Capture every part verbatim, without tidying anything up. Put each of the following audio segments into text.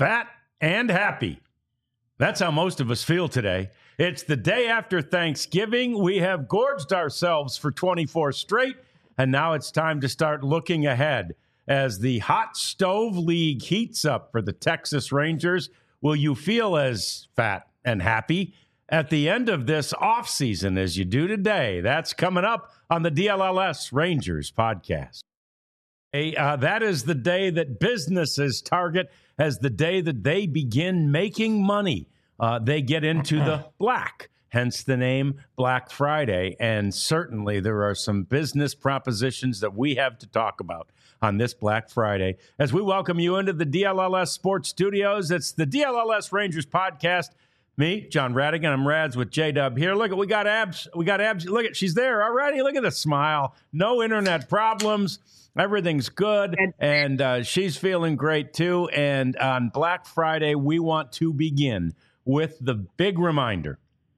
fat and happy. That's how most of us feel today. It's the day after Thanksgiving. We have gorged ourselves for twenty-four straight, and now it's time to start looking ahead. As the Hot Stove League heats up for the Texas Rangers, will you feel as fat and happy at the end of this offseason as you do today? That's coming up on the D L L S Rangers podcast. Hey, uh, that is the day that businesses target as the day that they begin making money. Uh, they get into the black, hence the name Black Friday. And certainly there are some business propositions that we have to talk about on this Black Friday. As we welcome you into the D L L S Sports Studios, it's the D L L S Rangers podcast. Me, John Radigan. I'm Rads with J-Dub here. Look, at we got abs. We got abs. Look at, she's there already. Look at the smile. No internet problems. Everything's good. And uh, she's feeling great too. And on Black Friday, we want to begin with the big reminder.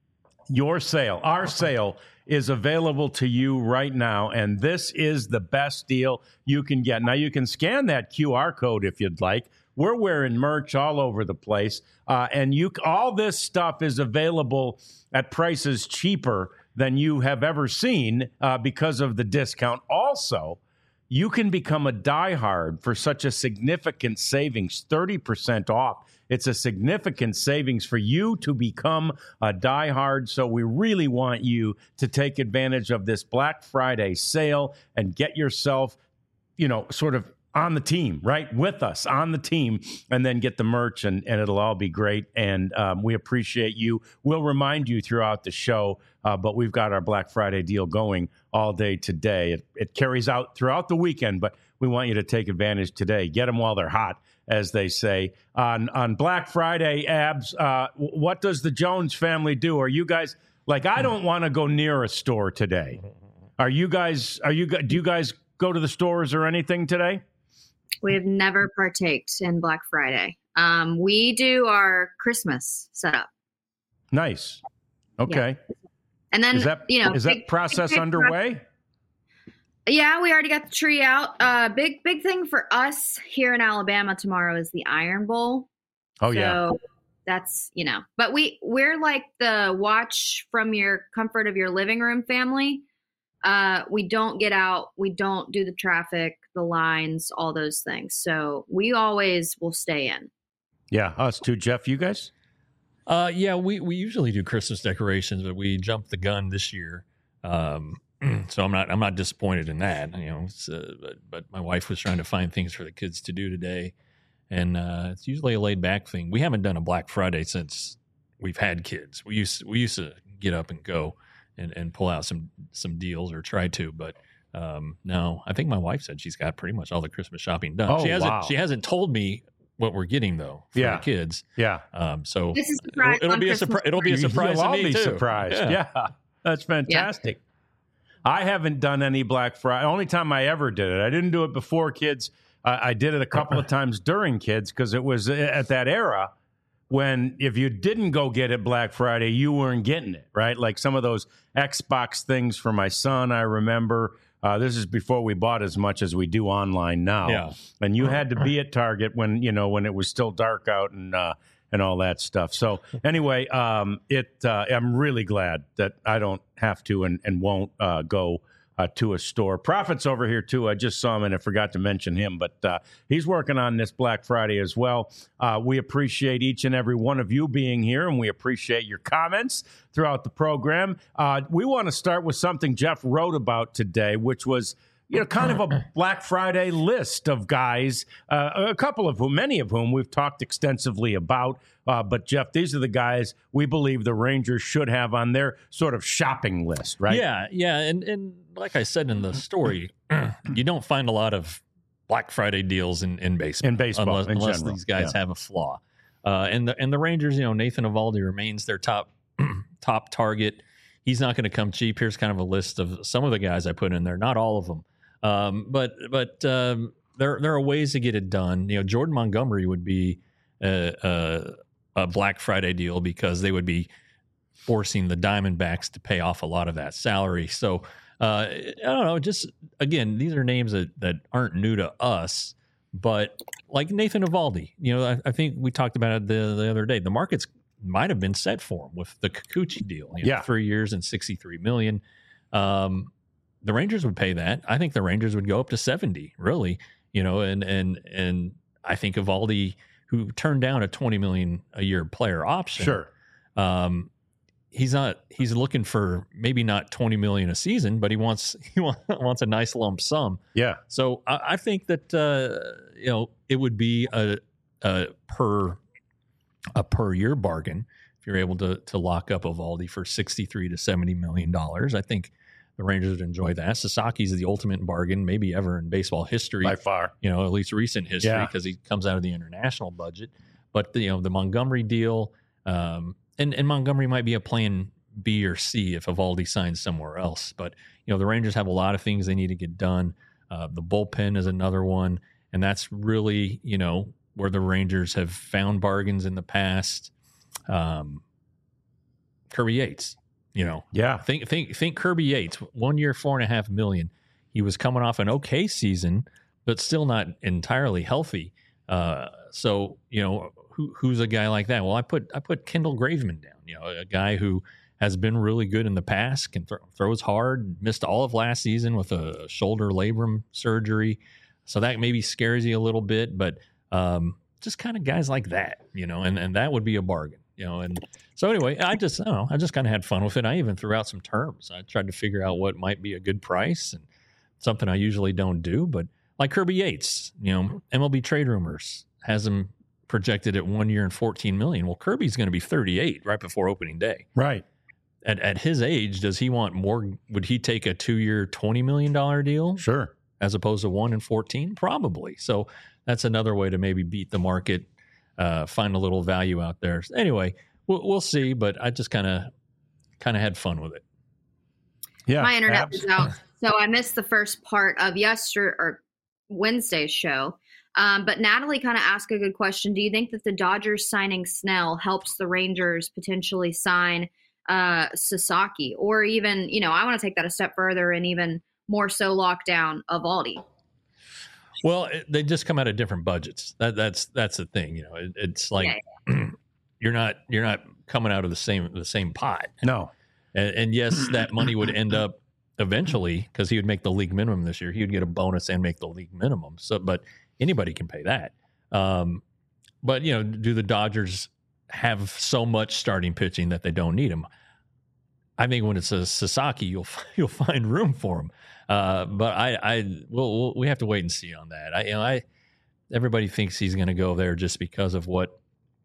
Your sale, our sale, is available to you right now, and this is the best deal you can get. Now, you can scan that Q R code if you'd like. We're wearing merch all over the place, uh, and you all this stuff is available at prices cheaper than you have ever seen uh, because of the discount. Also, you can become a diehard for such a significant savings, thirty percent off. It's a significant savings for you to become a diehard. So we really want you to take advantage of this Black Friday sale and get yourself, you know, sort of on the team, right? With us on the team, and then get the merch, and, and it'll all be great. And um, we appreciate you. We'll remind you throughout the show, uh, but we've got our Black Friday deal going all day today. It, it carries out throughout the weekend, but we want you to take advantage today. Get them while they're hot, as they say. On on Black Friday, Abs, uh, what does the Jones family do? Are you guys, like, I don't want to go near a store today. Are you guys, are you, do you guys go to the stores or anything today? We have never partaked in Black Friday. Um, we do our Christmas setup. Nice. Okay. Yeah. And then, is that, you know, is big, that process big, big underway? Yeah, we already got the tree out. Uh, big, big thing for us here in Alabama tomorrow is the Iron Bowl. Oh, so yeah. That's, you know, but we, we're like the watch from your comfort of your living room family. Uh, we don't get out. We don't do the traffic, the lines, all those things. So we always will stay in. Yeah, us too. Jeff, you guys? Uh, yeah, we, we usually do Christmas decorations, but we jumped the gun this year. Um, so I'm not I'm not disappointed in that. You know, it's, uh, but, but my wife was trying to find things for the kids to do today, and uh, it's usually a laid back thing. We haven't done a Black Friday since we've had kids. We used we used to get up and go. And, and pull out some some deals, or try to, but um, no, I think my wife said she's got pretty much all the Christmas shopping done. Oh, she hasn't wow. she hasn't told me what we're getting though for yeah. the kids. Yeah. Um. So this is it'll, it'll be a surprise. It'll be a surprise. You'll to all me be too. surprised. Yeah. yeah, that's fantastic. Yeah. I haven't done any Black Friday. Only time I ever did it. I didn't do it before kids. Uh, I did it a couple of times during kids because it was at that era when if you didn't go get it Black Friday, you weren't getting it, right? Like some of those Xbox things for my son, I remember. Uh, this is before we bought as much as we do online now. Yeah. And you had to be at Target when, you know, when it was still dark out and uh, and all that stuff. So anyway, um, it uh, I'm really glad that I don't have to and, and won't uh, go Uh, to a store. Prophet's over here, too. I just saw him and I forgot to mention him, but uh, he's working on this Black Friday as well. Uh, we appreciate each and every one of you being here, and we appreciate your comments throughout the program. Uh, we want to start with something Jeff wrote about today, which was, you know, kind of a Black Friday list of guys, uh, a couple of whom, many of whom we've talked extensively about. Uh, but, Jeff, these are the guys we believe the Rangers should have on their sort of shopping list, right? Yeah, yeah. And, and like I said in the story, you don't find a lot of Black Friday deals in, in baseball. In baseball, unless, in unless general, these guys yeah. have a flaw. Uh, and, the, and the Rangers, you know, Nathan Eovaldi remains their top top target. He's not going to come cheap. Here's kind of a list of some of the guys I put in there, not all of them. Um, but but um, there there are ways to get it done. You know, Jordan Montgomery would be a, a, a Black Friday deal because they would be forcing the Diamondbacks to pay off a lot of that salary. So uh, I don't know. Just again, these are names that, that aren't new to us, But like Nathan Eovaldi, you know, I, I think we talked about it the, the other day. The markets might have been set for him with the Kikuchi deal. You know, yeah. Three years and sixty-three million dollars. Um, the Rangers would pay that. I think the Rangers would go up to seventy, really. You know, and and and I think Eovaldi, who turned down a twenty million dollars a year player option. Sure. Um, he's not. He's looking for maybe not twenty million dollars a season, but he wants he wants a nice lump sum. Yeah. So I, I think that uh, you know it would be a, a per a per year bargain if you're able to to lock up Eovaldi for sixty-three to seventy million dollars. I think the Rangers would enjoy that. Sasaki's the ultimate bargain, maybe ever in baseball history, by far. You know, at least recent history, because yeah. he comes out of the international budget. But the, you know, the Montgomery deal, um, and and Montgomery might be a plan B or C if Eovaldi signs somewhere else. But you know, the Rangers have a lot of things they need to get done. Uh, the bullpen is another one, and that's really, you know, where the Rangers have found bargains in the past. Um, Kirby Yates. You know, yeah. Think, think, think. Kirby Yates, one year, four and a half million. He was coming off an okay season, but still not entirely healthy. Uh, so, you know, who, who's a guy like that? Well, I put I put Kendall Graveman down. You know, a guy who has been really good in the past, can th- throws hard. Missed all of last season with a shoulder labrum surgery, so that maybe scares you a little bit. But um, just kind of guys like that, you know, and and that would be a bargain. You know, and so anyway, I just, I don't know, I just kind of had fun with it. I even threw out some terms. I tried to figure out what might be a good price, and something I usually don't do. But like Kirby Yates, you know, M L B Trade Rumors has him projected at one year and fourteen million. Well, Kirby's going to be thirty-eight right before opening day. Right. At at his age, does he want more? Would he take a two year, twenty million dollars deal? Sure. As opposed to one and fourteen? Probably. So that's another way to maybe beat the market. Uh, find a little value out there. Anyway, we'll, we'll see, but I just kind of kind of had fun with it. Yeah, my internet abs- was out, so I missed the first part of yesterday or Wednesday's show. Um, but Natalie kind of asked a good question. Do you think that the Dodgers signing Snell helps the Rangers potentially sign uh, Sasaki, or even, you know, I want to take that a step further and even more so lock down Eovaldi? Well, it, they just come out of different budgets. That, that's that's the thing, you know. It, it's like yeah. you're not you're not coming out of the same the same pot. No, and, and yes, that money would end up eventually, because he would make the league minimum this year. He would get a bonus and make the league minimum. So, but anybody can pay that. Um, but you know, do the Dodgers have so much starting pitching that they don't need him? I think when it's a Sasaki, you'll you'll find room for him. Uh, but I, I, we'll, we'll, we have to wait and see on that. I, you know, I, everybody thinks he's going to go there just because of what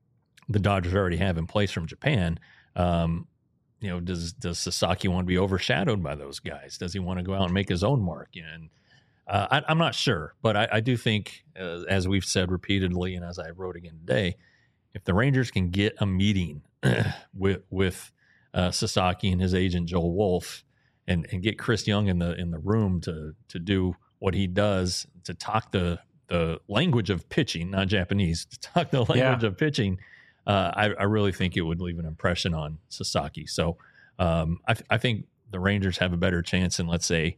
the Dodgers already have in place from Japan. Um, you know, does does Sasaki want to be overshadowed by those guys? Does he want to go out and make his own mark? You know, and uh, I, I'm not sure, but I, I do think, uh, as we've said repeatedly, and as I wrote again today, if the Rangers can get a meeting with with uh, Sasaki and his agent Joel Wolf, and and get Chris Young in the in the room to to do what he does, to talk the the language of pitching, not Japanese, to talk the language yeah. of pitching, uh, I, I really think it would leave an impression on Sasaki. So um, I, I think the Rangers have a better chance than, let's say,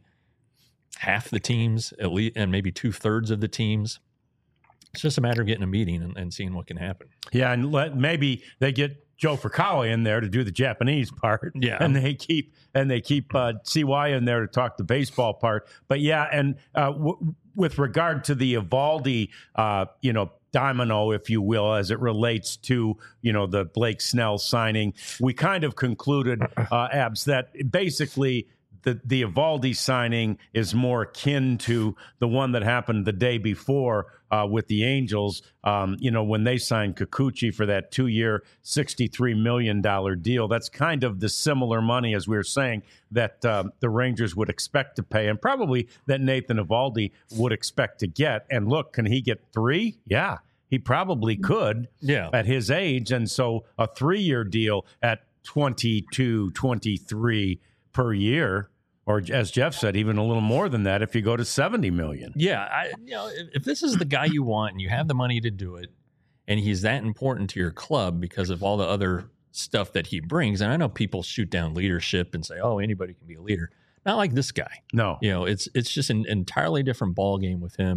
half the teams, at least, and maybe two thirds of the teams. It's just a matter of getting a meeting and, and seeing what can happen. Yeah, and let, maybe they get Joe Fukawa in there to do the Japanese part. Yeah, and they keep and they keep uh, C Y in there to talk the baseball part. But yeah, and uh, w- with regard to the Eovaldi, uh, you know, domino, if you will, as it relates to, you know, the Blake Snell signing, we kind of concluded, uh, Abs, that basically the the Eovaldi signing is more akin to the one that happened the day before uh, with the Angels, um, you know, when they signed Kikuchi for that two-year, sixty-three million dollars deal. That's kind of the similar money, as we were saying, that uh, the Rangers would expect to pay, and probably that Nathan Eovaldi would expect to get. And look, can he get three? Yeah, he probably could yeah. at his age. And so a three-year deal at twenty-two, twenty-three per year, or as Jeff said, even a little more than that if you go to seventy million. Yeah, I, you know, if, if this is the guy you want and you have the money to do it, and he's that important to your club because of all the other stuff that he brings, and I know people shoot down leadership and say, "Oh, anybody can be a leader." Not like this guy. No, you know, it's it's just an entirely different ball game with him,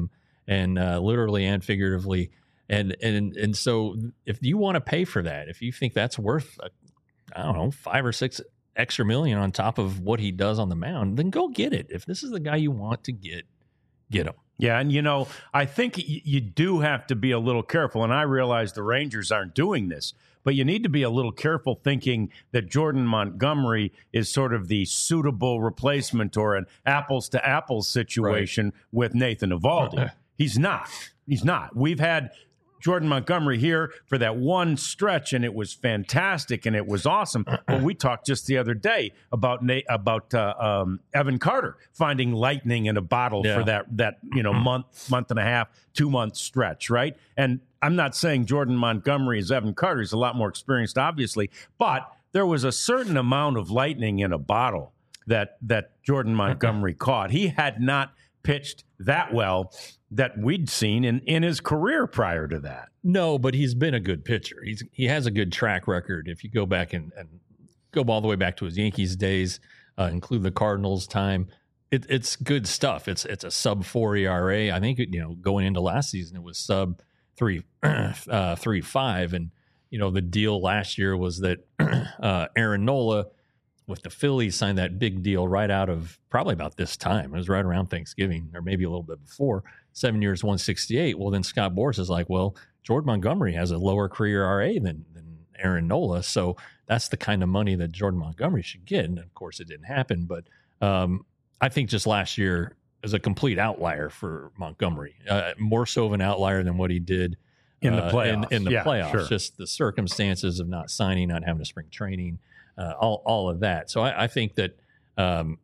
and uh, literally and figuratively. And and and so if you want to pay for that, if you think that's worth, uh, I don't know, five or six extra million on top of what he does on the mound, then go get it. If this is the guy you want to get, get him. Yeah, and you know, I think y- you do have to be a little careful, and I realize the Rangers aren't doing this, but you need to be a little careful thinking that Jordan Montgomery is sort of the suitable replacement or an apples-to-apples situation right. with Nathan Eovaldi. He's not. He's not. We've had Jordan Montgomery here for that one stretch, and it was fantastic, and it was awesome. But we talked just the other day about Nate, about uh, um, Evan Carter finding lightning in a bottle yeah. for that that you know month, month and a half, two month stretch, right? And I'm not saying Jordan Montgomery is Evan Carter; he's a lot more experienced, obviously. But there was a certain amount of lightning in a bottle that that Jordan Montgomery caught. He had not pitched that well that we'd seen in, in his career prior to that. No, but he's been a good pitcher. He's he has a good track record. If you go back and, and go all the way back to his Yankees days, uh, include the Cardinals time, it, it's good stuff. It's it's a sub four E R A. I think you know going into last season it was sub three uh, three five, and you know the deal last year was that uh, Aaron Nola with the Phillies signed that big deal right out of probably about this time. It was right around Thanksgiving or maybe a little bit before. Seven years, one sixty-eight. Well, then Scott Boras is like, well, Jordan Montgomery has a lower career E R A than, than Aaron Nola. So that's the kind of money that Jordan Montgomery should get. And of course it didn't happen. But um, I think just last year is a complete outlier for Montgomery, uh, more so of an outlier than what he did in the playoffs. Uh, in, in the yeah, playoffs, sure. Just the circumstances of not signing, not having a spring training, uh, all, all of that. So I, I think that um,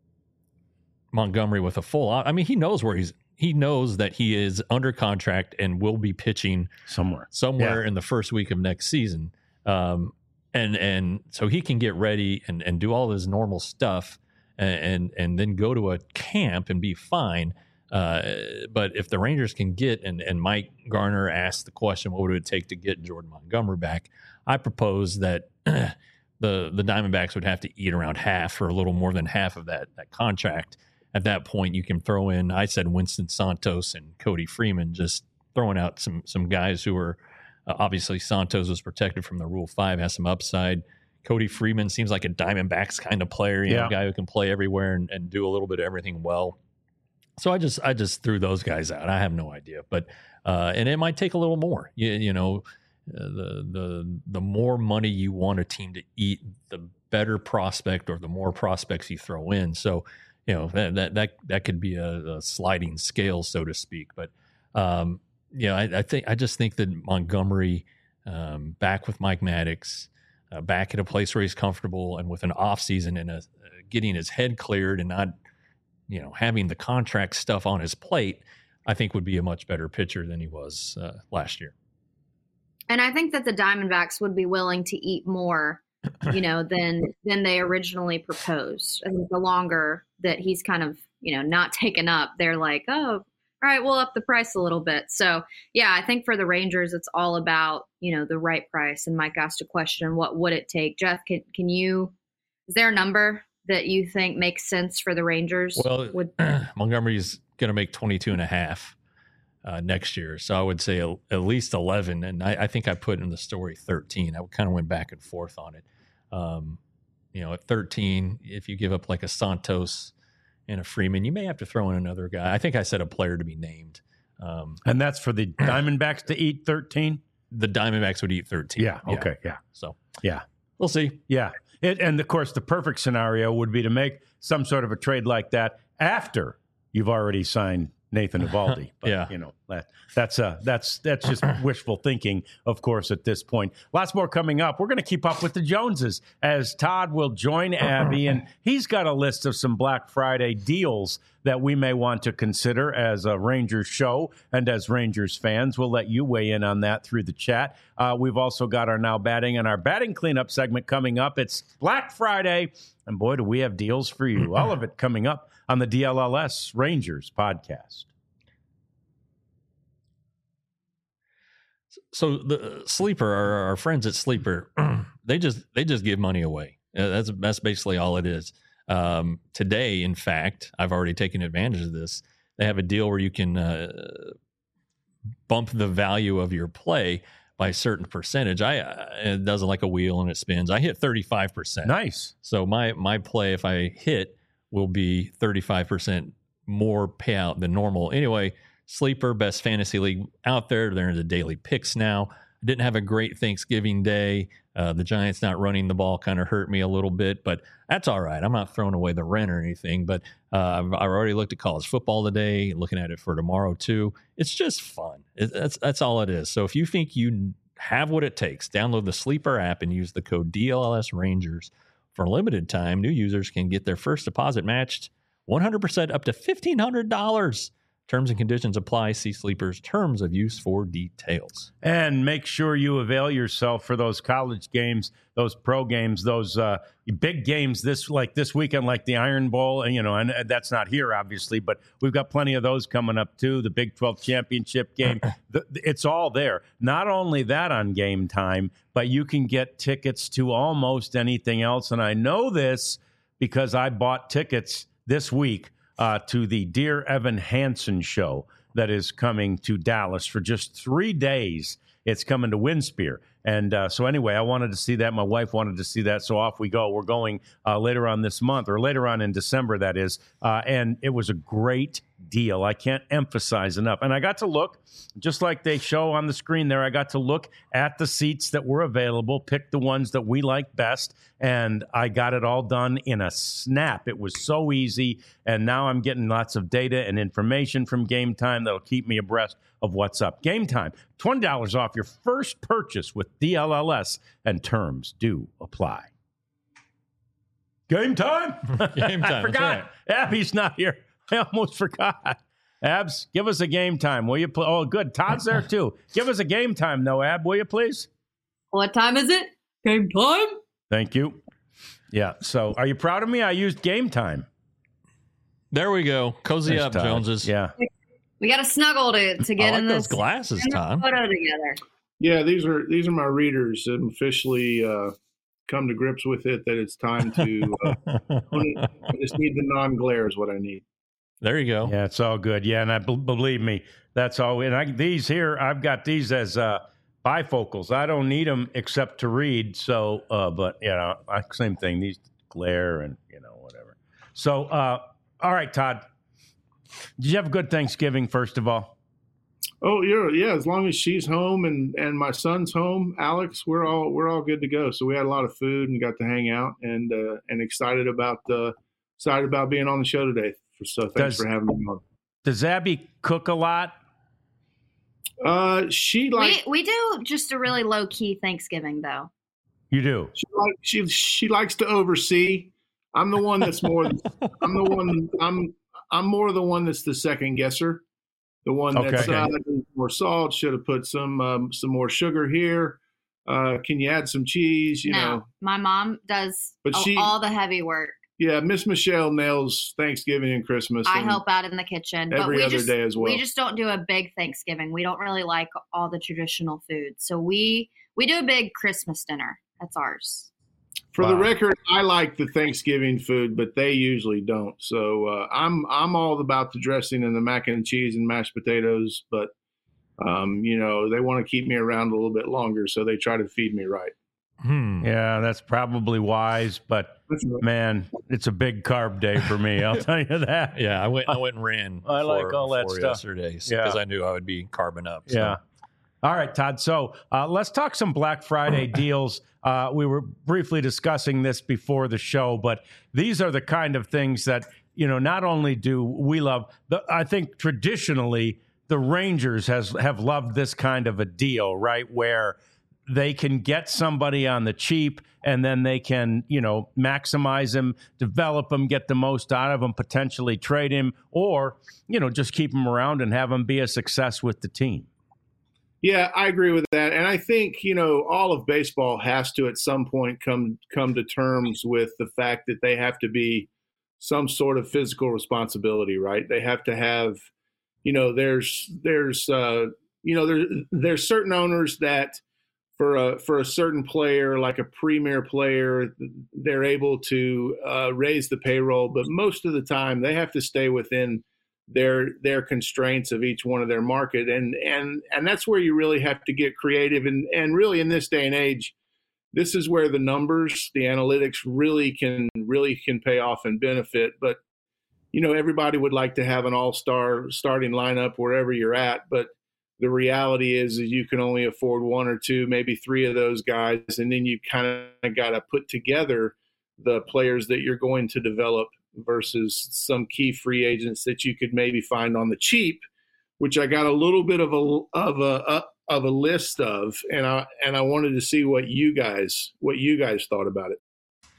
Montgomery with a full, I mean, he knows where he's, he knows that he is under contract and will be pitching somewhere, somewhere yeah. in the first week of next season. Um, and, and so he can get ready and, and do all his normal stuff and, and, and then go to a camp and be fine. Uh, but if the Rangers can get, and, and Mike Garner asked the question, what would it take to get Jordan Montgomery back? I propose that the, the Diamondbacks would have to eat around half or a little more than half of that, that contract. At that point, you can throw in, I said, Winston Santos and Cody Freeman, just throwing out some some guys who are, uh, obviously Santos was protected from the Rule five, has some upside. Cody Freeman seems like a Diamondbacks kind of player, you yeah. know, a guy who can play everywhere and, and do a little bit of everything well. So I just I just threw those guys out. I have no idea. But, uh, and it might take a little more, you, you know, uh, the, the, the more money you want a team to eat, the better prospect or the more prospects you throw in. So, you know, that that that, that could be a, a sliding scale, so to speak. But um, yeah, I, I think I just think that Montgomery um, back with Mike Maddox, uh, back at a place where he's comfortable, and with an off season and a, uh, getting his head cleared and not, you know, having the contract stuff on his plate, I think would be a much better pitcher than he was uh, last year. And I think that the Diamondbacks would be willing to eat more, you know, than than they originally proposed. I think the longer that he's kind of, you know, not taken up, they're like, oh, all right, we'll up the price a little bit. So, yeah, I think for the Rangers, it's all about, you know, the right price. And Mike asked a question, what would it take? Jeff, can, can you, is there a number that you think makes sense for the Rangers? Well, would- Montgomery's going to make twenty-two and a half uh, next year. So I would say a, at least eleven. And I, I think I put in the story thirteen. I kind of went back and forth on it. Um, you know, at thirteen, if you give up like a Santos and a Freeman, you may have to throw in another guy. I think I said a player to be named. Um, and that's for the Diamondbacks to eat thirteen? The Diamondbacks would eat thirteen. Yeah, okay, yeah. yeah. So, yeah. We'll see. Yeah. It, and, of course, the perfect scenario would be to make some sort of a trade like that after you've already signed Nathan Eovaldi. But, yeah. you know, that, that's uh, that's that's just wishful thinking, of course, at this point. Lots more coming up. We're going to keep up with the Joneses as Todd will join Abby, and he's got a list of some Black Friday deals that we may want to consider as a Rangers show and as Rangers fans. We'll let you weigh in on that through the chat. Uh, we've also got our Now Batting and our batting cleanup segment coming up. It's Black Friday, and boy, do we have deals for you. All of it coming up on the D L L S Rangers podcast. So the Sleeper, our, our friends at Sleeper, they just they just give money away. Uh, That's that's basically all it is. Um, today, in fact, I've already taken advantage of this. they have a deal where you can uh, bump the value of your play by a certain percentage. I uh, it does it like a wheel and it spins. I hit thirty-five percent. Nice. So my my play, if I hit, will be thirty-five percent more payout than normal. Anyway, Sleeper, best fantasy league out there. They're in the daily picks now. I didn't have a great Thanksgiving Day. Uh, the Giants not running the ball kind of hurt me a little bit, but that's all right. I'm not throwing away the rent or anything, but uh, I've, I've already looked at college football today, looking at it for tomorrow too. It's just fun. It, that's, that's all it is. So if you think you have what it takes, download the Sleeper app and use the code D L L S Rangers. For a limited time, new users can get their first deposit matched one hundred percent up to fifteen hundred dollars. Terms and conditions apply. See Sleeper's terms of use for details. And make sure you avail yourself for those college games, those pro games, those uh, big games this like this weekend, like the Iron Bowl. And, you know, and that's not here, obviously, but we've got plenty of those coming up, too. The Big twelve championship game. the, it's all there. Not only that on Game Time, but you can get tickets to almost anything else. And I know this because I bought tickets this week Uh, to the Dear Evan Hansen show that is coming to Dallas for just three days. It's coming to Winspear. And uh, so anyway, I wanted to see that. My wife wanted to see that. So off we go. We're going uh, later on this month, or later on in December, that is. Uh, and it was a great deal. I can't emphasize enough. And I got to look, just like they show on the screen there, I got to look at the seats that were available, pick the ones that we like best, and I got it all done in a snap. It was so easy, and now I'm getting lots of data and information from Game Time that'll keep me abreast of what's up. Game Time, twenty dollars off your first purchase with D L L S, and terms do apply. Game Time? Game Time. I forgot. Right. Abby's not here. I almost forgot. Abs, give us a Game Time, will you? Pl- oh, good. Todd's there, too. Give us a Game Time, though, Ab, will you, please? What time is it? Game time? Thank you. Yeah, so are you proud of me? I used Game Time. There we go. Cozy Nice, up, Todd. Joneses. Yeah. We got to snuggle to, to get I like in those this glasses, in the Todd. photo together. Yeah, these are these are my readers. I'm officially uh, come to grips with it that it's time to. Uh, I just need the non-glare is what I need. There you go. Yeah, it's all good. Yeah, and I b- believe me, that's all. And I, these here, I've got these as uh, bifocals. I don't need them except to read. So, uh, but you know, I, same thing. These glare and you know whatever. So, uh, all right, Todd. Did you have a good Thanksgiving? First of all. Oh, yeah, yeah. As long as she's home and, and my son's home, Alex, we're all we're all good to go. So we had a lot of food and got to hang out and uh, and excited about uh, excited about being on the show today. So thanks Does, for having me on. Does Abby cook a lot? Uh, she like we, we do just a really low key Thanksgiving, though. You do. she like she she likes to oversee. I'm the one that's more. I'm the one. I'm I'm more the one that's the second guesser. The one that's Okay. uh, more salt. Should have put some um, some more sugar here. Uh, can you add some cheese? You no, know. my mom does But all, she- all the heavy work. Yeah, Miss Michelle nails Thanksgiving and Christmas. I and help out in the kitchen, but every we other just day as well. we just don't do a big Thanksgiving. We don't really like all the traditional foods, so we we do a big Christmas dinner. That's ours. For the Wow. record, I like the Thanksgiving food, but they usually don't. So uh, I'm I'm all about the dressing and the mac and cheese and mashed potatoes, but um, you know they want to keep me around a little bit longer, so they try to feed me right. Hmm. Yeah, that's probably wise, but That's right. man, it's a big carb day for me. I'll tell you that. Yeah, I went. I went and ran. I like before- all that before stuff. yesterday because Yeah. I knew I would be carbon up. So. Yeah. All right, Todd. So uh, let's talk some Black Friday deals. Uh, we were briefly discussing this before the show, but these are the kind of things that, you know, not only do we love, the, I think traditionally the Rangers has have loved this kind of a deal, right? Where they can get somebody on the cheap and then they can, you know, maximize him, develop him, get the most out of him, potentially trade him, or, you know, just keep him around and have him be a success with the team. Yeah, I agree with that, and I think you know all of baseball has to at some point come come to terms with the fact that they have to be some sort of physical responsibility, right? They have to have, you know, there's there's uh, you know there there's certain owners that for a for a certain player like a premier player, they're able to uh, raise the payroll, but most of the time they have to stay within their their constraints of each one of their market, and and and that's where you really have to get creative. And and really in this day and age, this is where the numbers, the analytics really can really can pay off and benefit. But you know, everybody would like to have an all-star starting lineup wherever you're at, but the reality is, is you can only afford one or two, maybe three of those guys, and then you kind of got to put together the players that you're going to develop versus some key free agents that you could maybe find on the cheap, which I got a little bit of a of a of a list of, and I and I wanted to see what you guys what you guys thought about it.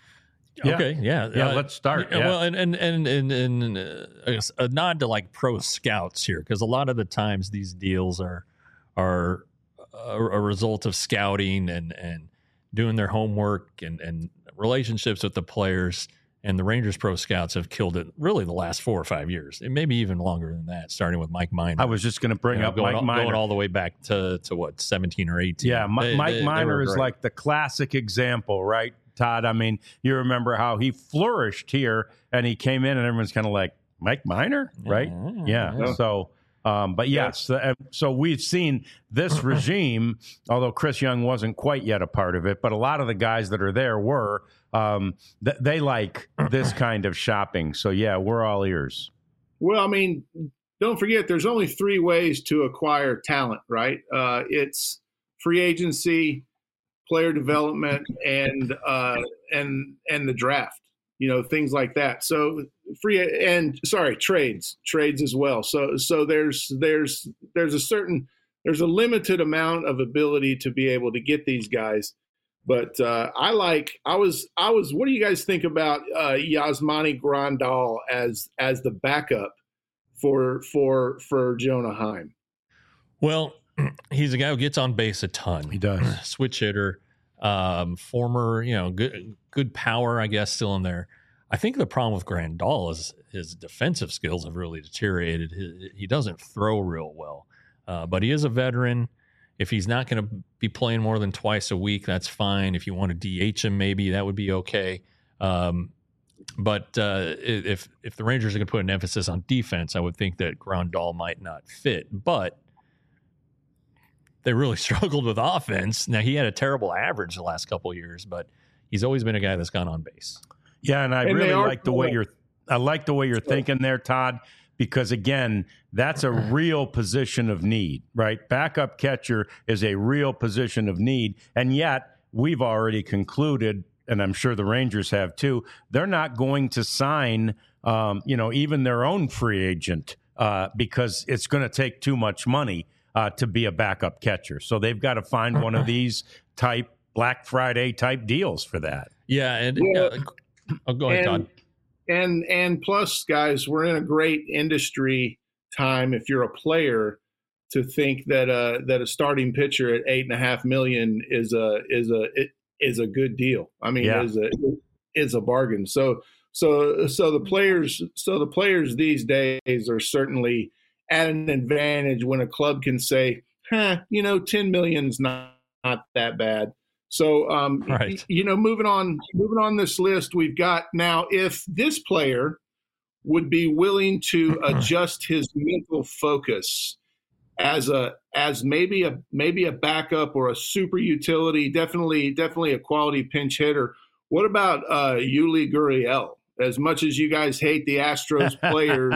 Yeah. Okay, yeah, Yeah, uh, let's start. Yeah, Yeah. Well, and and and and, and uh, I guess a nod to like pro scouts here, because a lot of the times these deals are are a, a result of scouting and and doing their homework and and relationships with the players. And the Rangers pro scouts have killed it really the last four or five years, and maybe even longer than that, starting with Mike Minor. I was just going to bring You know, up going, Mike all, Minor. going all the way back to to what seventeen or eighteen. Yeah, Mi- They- Mike they- they Minor were is great. like the classic example, right, Todd? I mean, you remember how he flourished here, and he came in, and everyone's kind of like, Mike Minor, right? Yeah. Yeah. So, um, but yes, uh, so we've seen this regime, although Chris Young wasn't quite yet a part of it, but a lot of the guys that are there were. Um, th- they like this kind of shopping. So, yeah, we're all ears. Well, I mean, don't forget, there's only three ways to acquire talent, right? Uh, it's free agency, player development, and uh, and and the draft. You know, things like that. So free and sorry, trades, trades as well. So so there's there's there's a certain there's a limited amount of ability to be able to get these guys. But uh, I like I was I was. What do you guys think about uh, Yasmani Grandal as as the backup for for for Jonah Heim? Well, he's a guy who gets on base a ton. He does. Switch hitter, um, former, you know, good good power, I guess, still in there. I think the problem with Grandal is his defensive skills have really deteriorated. He, he doesn't throw real well, uh, but he is a veteran. If he's not going to be playing more than twice a week, that's fine. If you want to D H him, maybe that would be okay. Um, but uh, if if the Rangers are going to put an emphasis on defense, I would think that Grandal might not fit. But they really struggled with offense. Now, he had a terrible average the last couple of years, but he's always been a guy that's gone on base. Yeah, and I And really they are like the way cool. you're. I like the way you're thinking there, Todd, because again, that's a real position of need, right? Backup catcher is a real position of need, and yet we've already concluded, and I'm sure the Rangers have too. They're not going to sign, um, you know, even their own free agent uh, because it's going to take too much money uh, to be a backup catcher. So they've got to find one of these type Black Friday type deals for that. Yeah, and Yeah. uh, oh, go ahead, and, Todd. and and plus, guys, we're in a great industry time. If you're a player, to think that uh that a starting pitcher at eight and a half million is a is a is a good deal. I mean, Yeah. is a is a bargain. So so so the players so the players these days are certainly at an advantage when a club can say, huh, you know, ten million's not not that bad. So, um, Right. you know, moving on, moving on this list, we've got now, if this player would be willing to adjust his mental focus as a, as maybe a, maybe a backup or a super utility, definitely, definitely a quality pinch hitter. What about uh, Yuli Gurriel? As much as you guys hate the Astros players,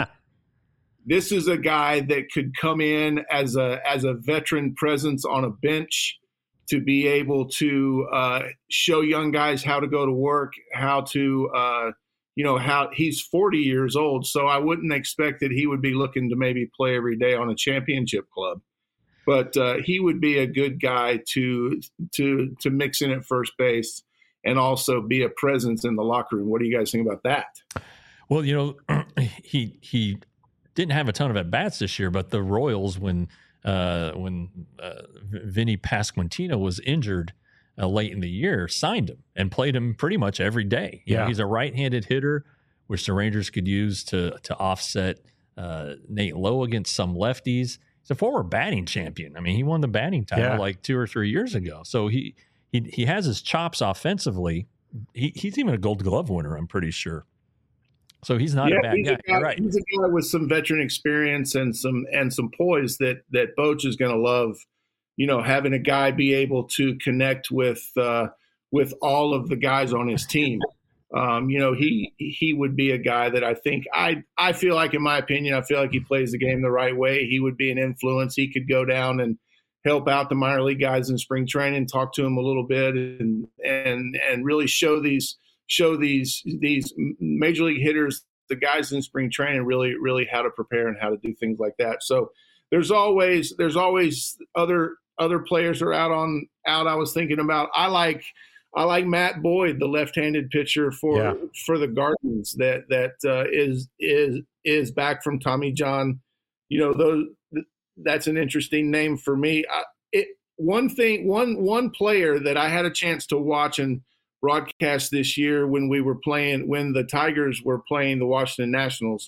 this is a guy that could come in as a, as a veteran presence on a bench, to be able to uh, show young guys how to go to work, how to, uh, you know, how he's forty years old. So I wouldn't expect that he would be looking to maybe play every day on a championship club, but uh, he would be a good guy to, to, to mix in at first base and also be a presence in the locker room. What do you guys think about that? Well, you know, he he didn't have a ton of at bats this year, but the Royals, when uh, when uh, Vinny Pasquantino was injured uh, late in the year, signed him and played him pretty much every day. You Yeah. know, he's a right-handed hitter, which the Rangers could use to to offset uh, Nate Lowe against some lefties. He's a former batting champion. I mean, he won the batting title Yeah. like two or three years ago. So he he he has his chops offensively. He, he's even a Gold Glove winner, I'm pretty sure. So he's not yeah, a bad he's guy. A guy You're right. He's a guy with some veteran experience and some and some poise that that Boch is going to love. You know, having a guy be able to connect with uh, with all of the guys on his team. Um, you know, he he would be a guy that I think I I feel like, in my opinion, I feel like he plays the game the right way. He would be an influence. He could go down and help out the minor league guys in spring training, talk to them a little bit, and and and really show these show these these major league hitters, the guys in spring training, really really how to prepare and how to do things like that. So there's always there's always other other players are out on out. I was thinking about. I like. I like Matt Boyd, the left-handed pitcher for Yeah. for the Guardians, that that uh, is is is back from Tommy John. You know, those that's an interesting name for me. I, it one thing, one one player that I had a chance to watch and broadcast this year when we were playing, when the Tigers were playing the Washington Nationals,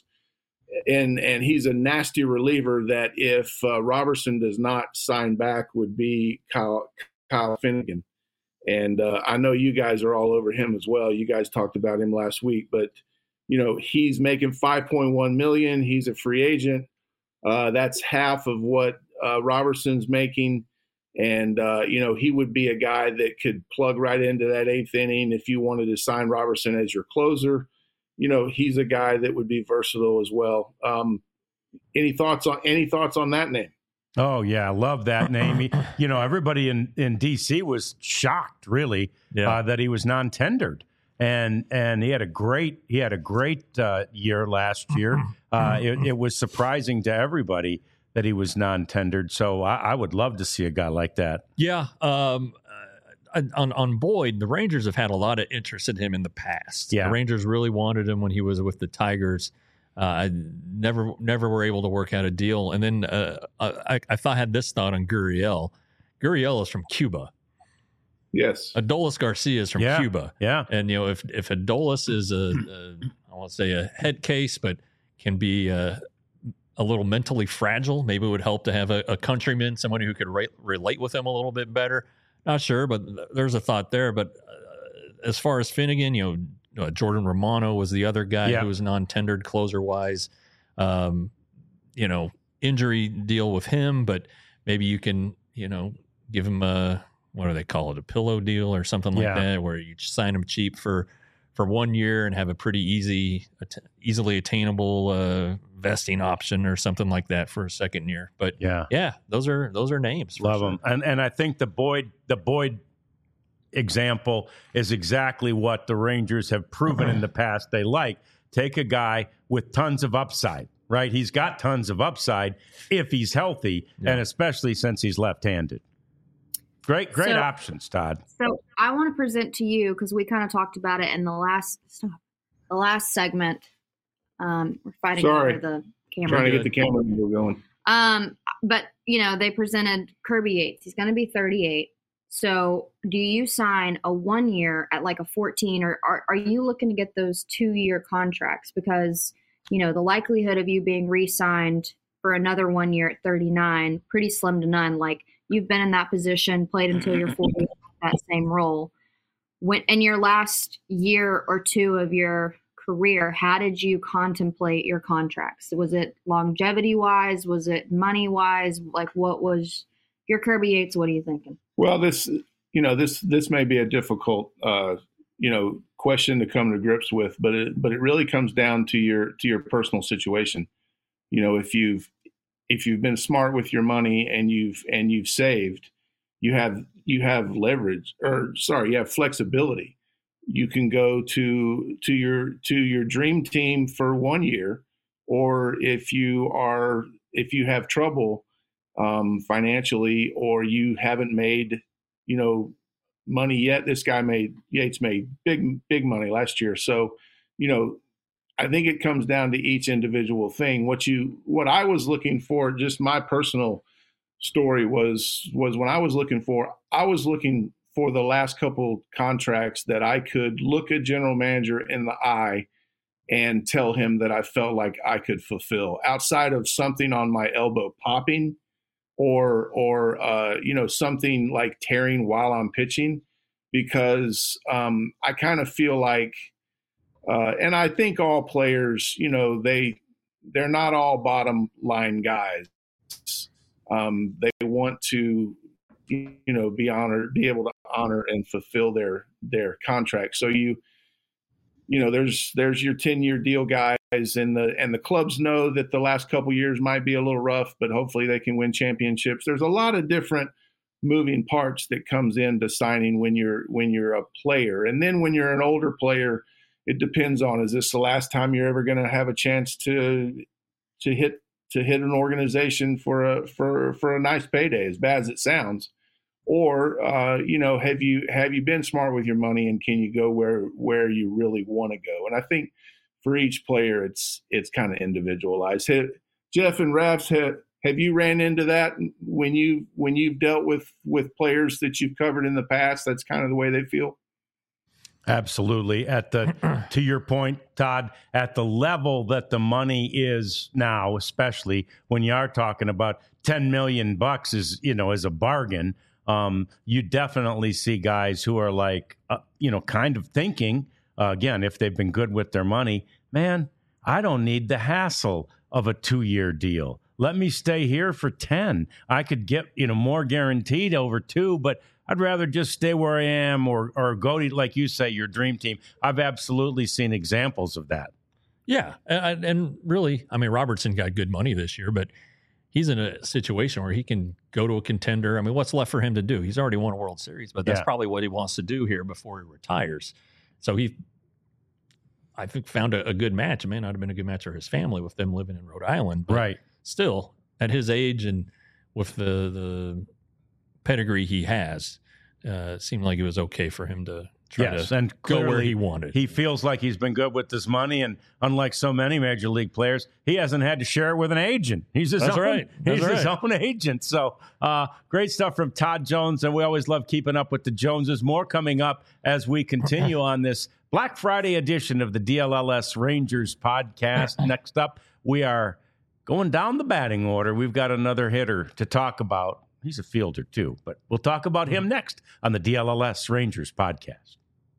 and and he's a nasty reliever. That if uh, Robertson does not sign back, would be Kyle Kyle Finnegan. And uh, I know you guys are all over him as well. You guys talked about him last week, but you know he's making five point one million dollars. He's a free agent. Uh, that's half of what uh, Robertson's making, and uh, you know he would be a guy that could plug right into that eighth inning if you wanted to sign Robertson as your closer. You know he's a guy that would be versatile as well. Um, any thoughts on any thoughts on that name? Oh, yeah. I love that name. He, you know, everybody in, in D C was shocked, really, Yeah. uh, that he was non-tendered. And and he had a great he had a great uh, year last year. Uh, it, it was surprising to everybody that he was non-tendered. So I, I would love to see a guy like that. Yeah. Um, uh, on on Boyd, the Rangers have had a lot of interest in him in the past. Yeah. The Rangers really wanted him when he was with the Tigers. Uh, never never were able to work out a deal. And then uh, I, I thought I had this thought on Gurriel. Gurriel is from Cuba. Yes. Adolis Garcia is from Yeah. Cuba. Yeah. And, you know, if if Adolis is a, a I won't say a head case, but can be a, a little mentally fragile, maybe it would help to have a, a countryman, someone who could re- relate with him a little bit better. Not sure, but there's a thought there. But uh, as far as Finnegan, you know, uh, Jordan Romano was the other guy Yeah. who was non-tendered closer-wise. Um, you know, injury deal with him, but maybe you can, you know, give him a, what do they call it, a pillow deal or something like Yeah. that, where you sign him cheap for for one year and have a pretty easy, att- easily attainable uh, vesting option or something like that for a second year. But Yeah. yeah, those are those are names. for Love sure. him. And and I think the Boyd the Boyd example is exactly what the Rangers have proven in the past they like. Take a guy with tons of upside, right? He's got tons of upside if he's healthy, Yeah. and especially since he's left-handed. Great, great So- options, Todd. So I want to present to you, because we kind of talked about it in the last the last segment. Um, we're fighting Sorry. over the camera. Trying to good. get the camera angle going. Um, but you know, they presented Kirby Yates. He's going to be thirty-eight. So, do you sign a one year at like a fourteen, or are, are you looking to get those two year contracts? Because you know the likelihood of you being re-signed for another one year at thirty-nine pretty slim to none. Like you've been in that position, played until you're forty, that same role. When in your last year or two of your career, how did you contemplate your contracts? Was it longevity wise? Was it money wise? Like what was your Kirby Yates? What are you thinking? Well, this, you know, this this may be a difficult, uh, you know, question to come to grips with, but it but it really comes down to your to your personal situation. You know, if you've if you've been smart with your money and you've and you've saved, you have you have leverage, or sorry, you have flexibility. You can go to to your to your dream team for one year, or if you are if you have trouble um, financially, or you haven't made, you know, money yet. This guy made Yates made big big money last year, so you know, I think it comes down to each individual thing. What you what I was looking for, just my personal story was was when I was looking for I was looking for the last couple contracts that I could look a general manager in the eye and tell him that I felt like I could fulfill, outside of something on my elbow popping or or uh, you know, something like tearing while I'm pitching, because um, I kind of feel like Uh, and I think all players, you know, they they're not all bottom line guys. Um, they want to, you know, be honored, be able to honor and fulfill their their contract. So you, you know, there's there's your ten year deal guys, and the and the clubs know that the last couple years might be a little rough, but hopefully they can win championships. There's a lot of different moving parts that comes into signing when you're when you're a player, and then when you're an older player, it depends on, is this the last time you're ever going to have a chance to to hit to hit an organization for a for for a nice payday, as bad as it sounds, or uh, you know, have you have you been smart with your money, and can you go where where you really want to go? And I think for each player, it's it's kind of individualized. Have, Jeff and Rafs, have, have you ran into that when you when you've dealt with with players that you've covered in the past? That's kind of the way they feel. Absolutely. At the, to your point, Todd, at the level that the money is now, especially when you are talking about ten million bucks is, you know, is a bargain. Um, you definitely see guys who are like, uh, you know, kind of thinking, uh, again, if they've been good with their money, man, I don't need the hassle of a two year deal. Let me stay here for ten. I could get, you know, more guaranteed over two, but I'd rather just stay where I am, or or go to, like you say, your dream team. I've absolutely seen examples of that. Yeah, and, and really, I mean, Robertson got good money this year, but he's in a situation where he can go to a contender. I mean, what's left for him to do? He's already won a World Series, but that's Yeah. probably what he wants to do here before he retires. So he, I think, found a, a good match. It may not have been a good match for his family with them living in Rhode Island, but Right. still, at his age and with the the pedigree he has, uh, it seemed like it was okay for him to try Yes, to and go where clearly he wanted. He feels like he's been good with this money, and unlike so many major league players, he hasn't had to share it with an agent. He's his That's own. right. That's he's his right. own agent. So uh, great stuff from Todd Jones, and we always love keeping up with the Joneses. More coming up as we continue on this Black Friday edition of the D L L S Rangers podcast. Next up, we are going down the batting order. We've got another hitter to talk about. He's a fielder too, but we'll talk about him next on the D L L S Rangers podcast.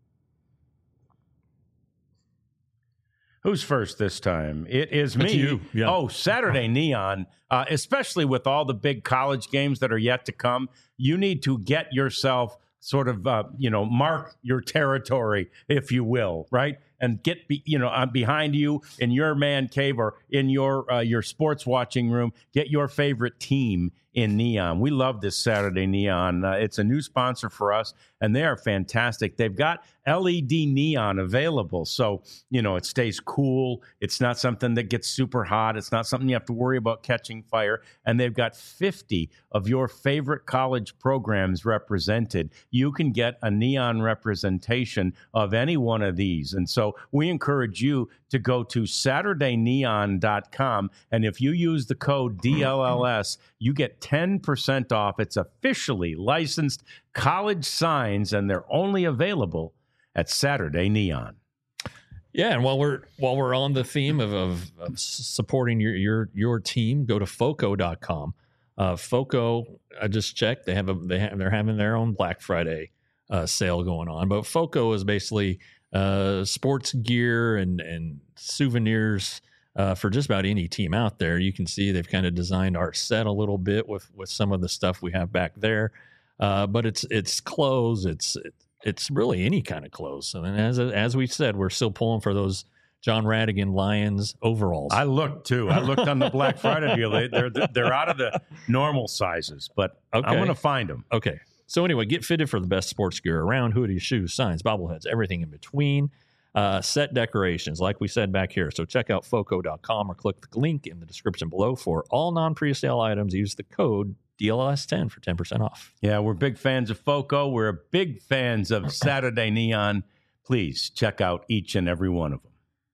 Who's first this time? It is me. It's you. Yeah. Oh, Saturday Neon, uh, especially with all the big college games that are yet to come, you need to get yourself sort of, uh, you know, mark your territory, if you will, right? And get, be, you know, uh, behind you in your man cave or in your uh, your sports watching room, get your favorite team in Neon. We love this Saturday Neon. Uh, it's a new sponsor for us, and they are fantastic. They've got L E D neon available, so, you know, it stays cool. It's not something that gets super hot. It's not something you have to worry about catching fire. And they've got fifty of your favorite college programs represented. You can get a neon representation of any one of these. And so we encourage you to go to Saturday Neon dot com, and if you use the code D L L S, you get ten percent off. It's officially licensed college signs, and they're only available at Saturday Neon. Yeah, and while we're while we're on the theme of, of, of supporting your your your team, go to Foco dot com. Uh, Foco, I just checked; they have a they have they're having their own Black Friday uh, sale going on. But Foco is basically uh, sports gear and and souvenirs uh, for just about any team out there. You can see they've kind of designed our set a little bit with with some of the stuff we have back there. Uh, but it's it's clothes, it's it's really any kind of clothes. And as as we said, we're still pulling for those John Radigan Lions overalls. I looked too. I looked on the Black Friday deal. They, they're they're out of the normal sizes, but Okay. I'm going to find them. Okay. So anyway, get fitted for the best sports gear around: hoodies, shoes, signs, bobbleheads, everything in between. Uh, set decorations, like we said back here. So check out Foco dot com or click the link in the description below for all non-pre-sale items. Use the code D L L S ten for ten percent off. Yeah, we're big fans of Foco. We're big fans of Saturday Neon. Please check out each and every one of them.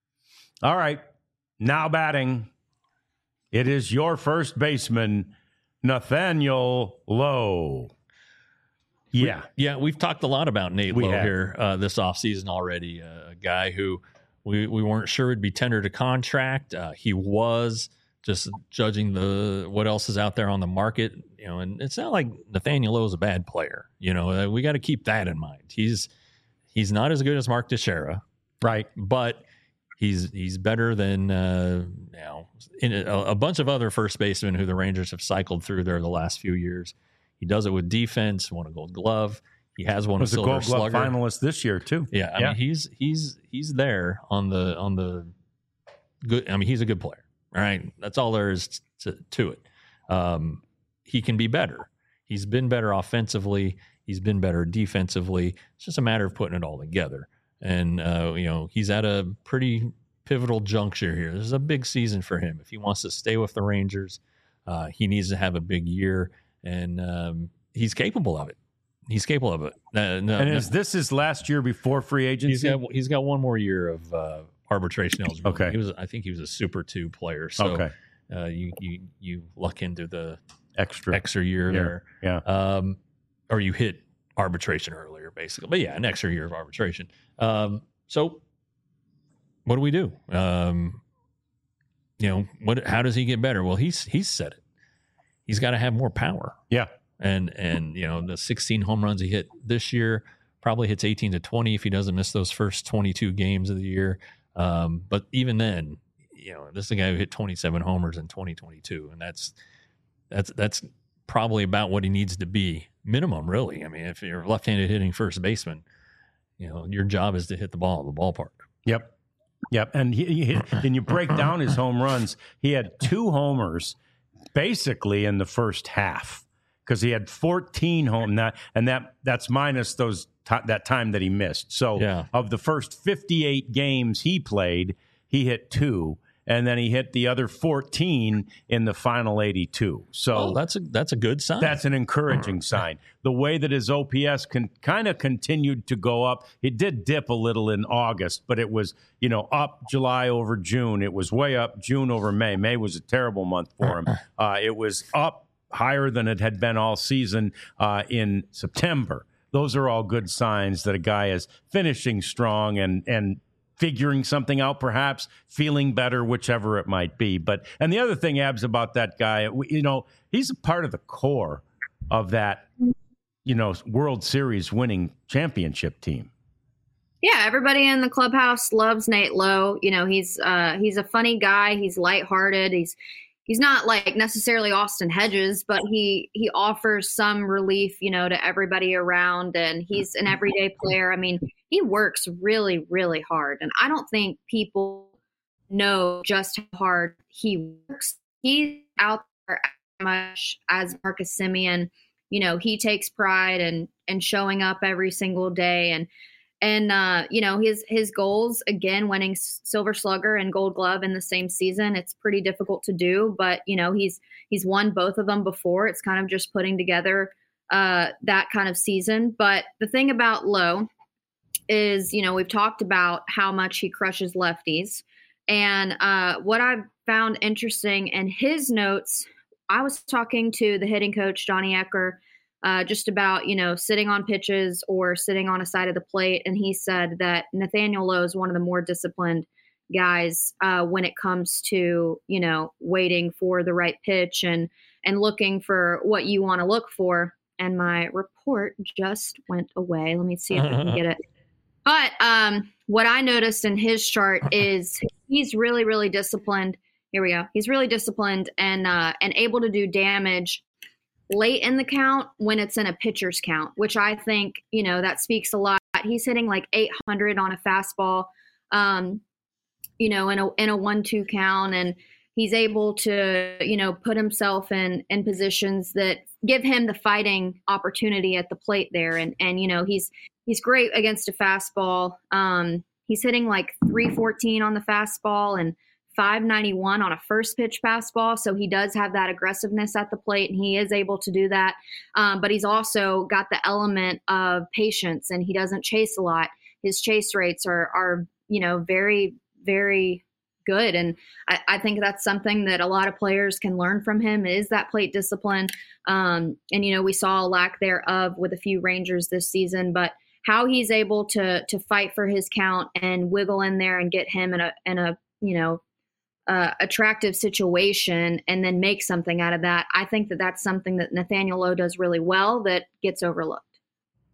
All right, now batting. It is your first baseman, Nathaniel Lowe. Yeah. We, yeah, we've talked a lot about Nate We Lowe have. here uh, this offseason already. Uh, a guy who we, we weren't sure would be tendered a contract. Uh, he was, just judging the what else is out there on the market. You know, and it's not like Nathaniel Lowe is a bad player. You know, uh, we got to keep that in mind. He's he's not as good as Mark Teixeira. Right. But he's he's better than uh, you know in a, a bunch of other first basemen who the Rangers have cycled through there the last few years. He does it with defense. Won a Gold Glove. He has won was a Silver Gold Glove Slugger finalist this year too. Yeah, I yeah. mean he's he's he's there on the on the good. I mean he's a good player. All right, that's all there is to, to it. Um, he can be better. He's been better offensively. He's been better defensively. It's just a matter of putting it all together. And, uh, you know, he's at a pretty pivotal juncture here. This is a big season for him. If he wants to stay with the Rangers, uh, he needs to have a big year, and um, he's capable of it. He's capable of it. Uh, no, and no, is this his last year before free agency? he's got he's got one more year of uh, arbitration eligibility. Okay. He was, I think he was a Super Two player. So okay. uh, you you you luck into the Extra. extra year Yeah. there. Yeah. Um, or you hit arbitration earlier, basically. But yeah, an extra year of arbitration. Um, so what do we do? Um, you know, what? How does he get better? Well, he's he's said it. He's got to have more power. Yeah. And and you know, the sixteen home runs he hit this year probably hits eighteen to twenty if he doesn't miss those first twenty-two games of the year. Um, but even then, you know, this is a guy who hit twenty-seven homers in twenty twenty-two, and that's that's that's probably about what he needs to be, minimum, really. I mean, if you're a left-handed hitting first baseman, you know, your job is to hit the ball at the ballpark. Yep. Yep. And he, he hit, and you break down his home runs. He had two homers basically in the first half because he had fourteen home that, and that that's minus those t- that time that he missed. So Yeah. of the first fifty-eight games he played, he hit two. And then he hit the other fourteen in the final eighty-two. So Oh, that's a that's a good sign. that's an encouraging sign. The way that his O P S can kind of continued to go up. It did dip a little in August, but it was, you know, up July over June. It was way up June over May. May was a terrible month for him. Uh, it was up higher than it had been all season uh, in September. Those are all good signs that a guy is finishing strong and and figuring something out, perhaps feeling better, whichever it might be. But and the other thing, Abs, about that guy, you know, he's a part of the core of that, you know, World Series winning championship team. Yeah, everybody in the clubhouse loves Nate Lowe. You know, he's uh, he's a funny guy. He's lighthearted. He's he's not like necessarily Austin Hedges, but he he offers some relief, you know, to everybody around. And he's an everyday player. I mean, he works really, really hard. And I don't think people know just how hard he works. He's out there as much as Marcus Semien. You know, he takes pride in, in showing up every single day. And, and uh, you know, his his goals, again, winning Silver Slugger and Gold Glove in the same season, it's pretty difficult to do. But, you know, he's he's won both of them before. It's kind of just putting together uh, that kind of season. But the thing about Lowe is, you know, we've talked about how much he crushes lefties. And uh, what I've found interesting in his notes, I was talking to the hitting coach, Johnny Ecker, uh, just about, you know, sitting on pitches or sitting on a side of the plate. And he said that Nathaniel Lowe is one of the more disciplined guys uh, when it comes to, you know, waiting for the right pitch and, and looking for what you want to look for. And my report just went away. Let me see if I can get it. But um, what I noticed in his chart is he's really, really disciplined. Here we go. He's really disciplined and uh, and able to do damage late in the count when it's in a pitcher's count, which I think, you know, that speaks a lot. He's hitting like eight hundred on a fastball, um, you know, in a in a one two count, and he's able to, you know, put himself in in positions that give him the fighting opportunity at the plate there, and and you know he's. He's great against a fastball. Um, he's hitting like three fourteen on the fastball and five ninety-one on a first pitch fastball. So he does have that aggressiveness at the plate, and he is able to do that. Um, but he's also got the element of patience, and he doesn't chase a lot. His chase rates are, are you know, very, very good. And I, I think that's something that a lot of players can learn from him is that plate discipline. Um, and, you know, we saw a lack thereof with a few Rangers this season, but how he's able to to fight for his count and wiggle in there and get him in a in a you know uh, attractive situation and then make something out of that. I think that that's something that Nathaniel Lowe does really well that gets overlooked.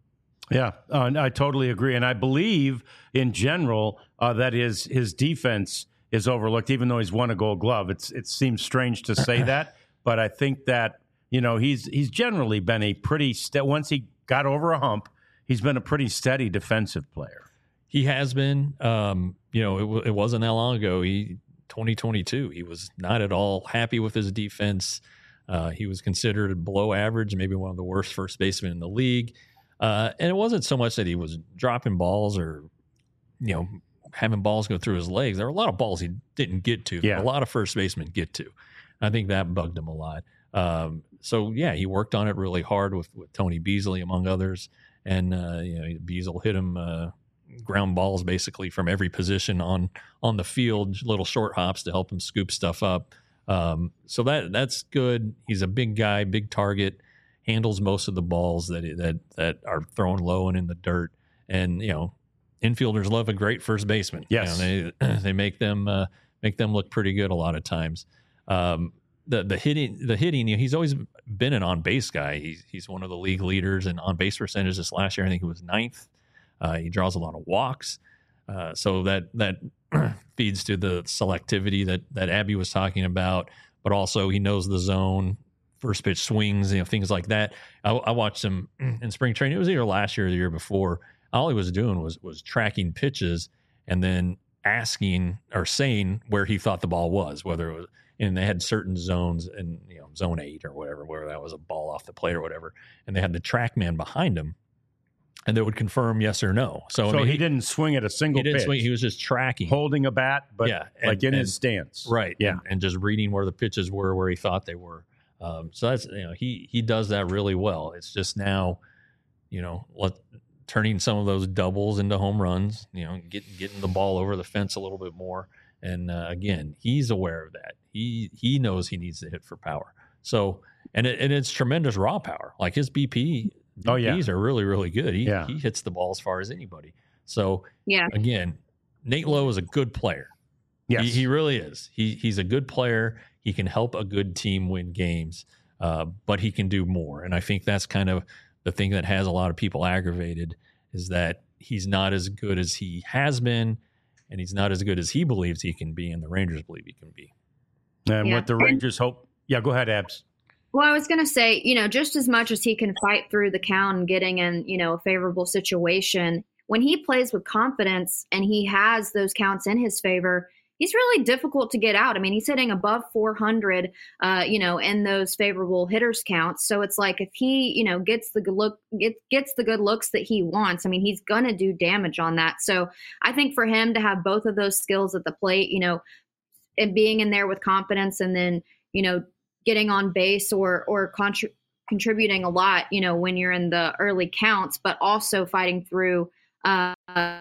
Yeah, uh, I totally agree. And I believe in general uh, that his, his defense is overlooked, even though he's won a Gold Glove. It's, it seems strange to say that, but I think that, you know, he's he's generally been a pretty, st- once he got over a hump, he's been a pretty steady defensive player. He has been. Um, you know, it, w- it wasn't that long ago. He twenty twenty-two, he was not at all happy with his defense. Uh, he was considered below average, maybe one of the worst first basemen in the league. Uh, and it wasn't so much that he was dropping balls or, you know, having balls go through his legs. There were a lot of balls he didn't get to. Yeah. A lot of first basemen get to. I think that bugged him a lot. Um, so, yeah, he worked on it really hard with, with Tony Beasley, among others. And, uh, you know, Beasley hit him uh, ground balls basically from every position on on the field, little short hops to help him scoop stuff up. Um, so that that's good. He's a big guy, big target. Handles most of the balls that that that are thrown low and in the dirt, and you know, infielders love a great first baseman. Yes, you know, they they make them uh, make them look pretty good a lot of times. Um, the the hitting the hitting, you know, he's always been an on base guy. He's he's one of the league leaders in on base percentage. This last year, I think he was ninth. Uh, he draws a lot of walks, uh, so that that feeds to the selectivity that that Abby was talking about. But also, he knows the zone. First pitch swings, you know, things like that. I, I watched him in spring training. It was either last year or the year before. All he was doing was was tracking pitches and then asking or saying where he thought the ball was, whether it was, and they had certain zones in, you know, zone eight or whatever, where that was a ball off the plate or whatever. And they had the track man behind him and they would confirm yes or no. So, so I mean, he, he didn't swing at a single he didn't pitch. swing. He was just tracking, holding a bat, but yeah, like and, in and, his stance. Right. Yeah. And, and just reading where the pitches were, where he thought they were. Um, so that's, you know, he, he does that really well. It's just now, you know, let, turning some of those doubles into home runs, you know, getting, getting the ball over the fence a little bit more. And, uh, again, he's aware of that. He, he knows he needs to hit for power. So, and it, and it's tremendous raw power. Like his B P, oh yeah, B Ps are really, really good. He, yeah. he hits the ball as far as anybody. So yeah, again, Nate Lowe is a good player. Yes. He, he really is. He he's a good player. He can help a good team win games, uh, but he can do more. And I think that's kind of the thing that has a lot of people aggravated is that he's not as good as he has been, and he's not as good as he believes he can be, and the Rangers believe he can be. And yeah. what the Rangers hope. Yeah, go ahead, Abs. Well, I was going to say, you know, just as much as he can fight through the count and getting in, you know, a favorable situation, when he plays with confidence and he has those counts in his favor, he's really difficult to get out. I mean, he's hitting above four hundred, uh, you know, in those favorable hitters counts. So it's like if he, you know, gets the good look, get, gets the good looks that he wants, I mean, he's going to do damage on that. So I think for him to have both of those skills at the plate, you know, and being in there with confidence and then, you know, getting on base or, or contri- contributing a lot, you know, when you're in the early counts, but also fighting through uh,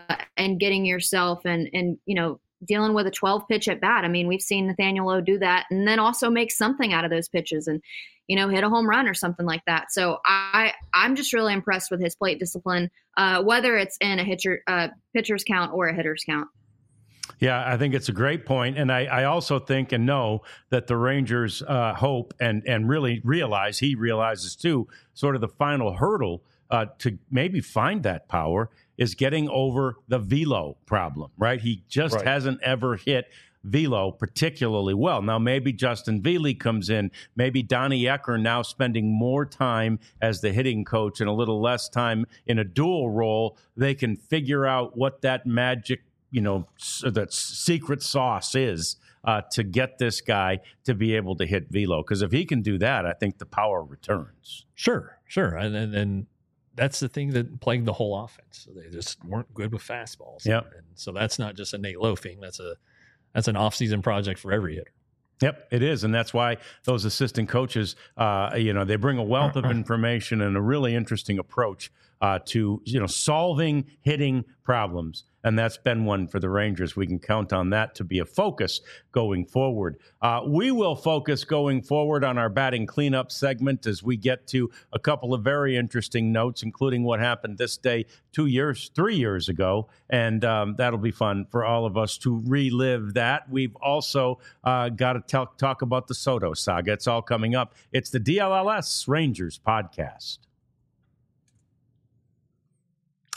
and getting yourself and, and, you know, dealing with a twelve pitch at bat. I mean, we've seen Nathaniel Lowe do that and then also make something out of those pitches and, you know, hit a home run or something like that. So I, I'm just really impressed with his plate discipline, uh, whether it's in a hitcher, uh, pitcher's count or a hitter's count. Yeah, I think it's a great point. And I, I also think and know that the Rangers uh, hope and, and really realize, he realizes too, sort of the final hurdle uh, to maybe find that power is getting over the velo problem, right? He just Right. hasn't ever hit velo particularly well. Now, maybe Justin Veely comes in, maybe Donnie Ecker now spending more time as the hitting coach and a little less time in a dual role. They can figure out what that magic, you know, that secret sauce is uh, to get this guy to be able to hit velo. Because if he can do that, I think the power returns. Sure, sure. And, and, and that's the thing that plagued the whole offense. So they just weren't good with fastballs. Yep. And so that's not just a Nate Lowe thing. That's a that's an off-season project for every hitter. Yep, it is. And that's why those assistant coaches, uh, you know, they bring a wealth of information and a really interesting approach uh, to, you know, solving hitting problems. And that's been one for the Rangers. We can count on that to be a focus going forward. Uh, we will focus going forward on our batting cleanup segment as we get to a couple of very interesting notes, including what happened this day two years, three years ago. And um, that'll be fun for all of us to relive that. We've also uh, got to talk, talk about the Soto saga. It's all coming up. It's the D L L S Rangers podcast.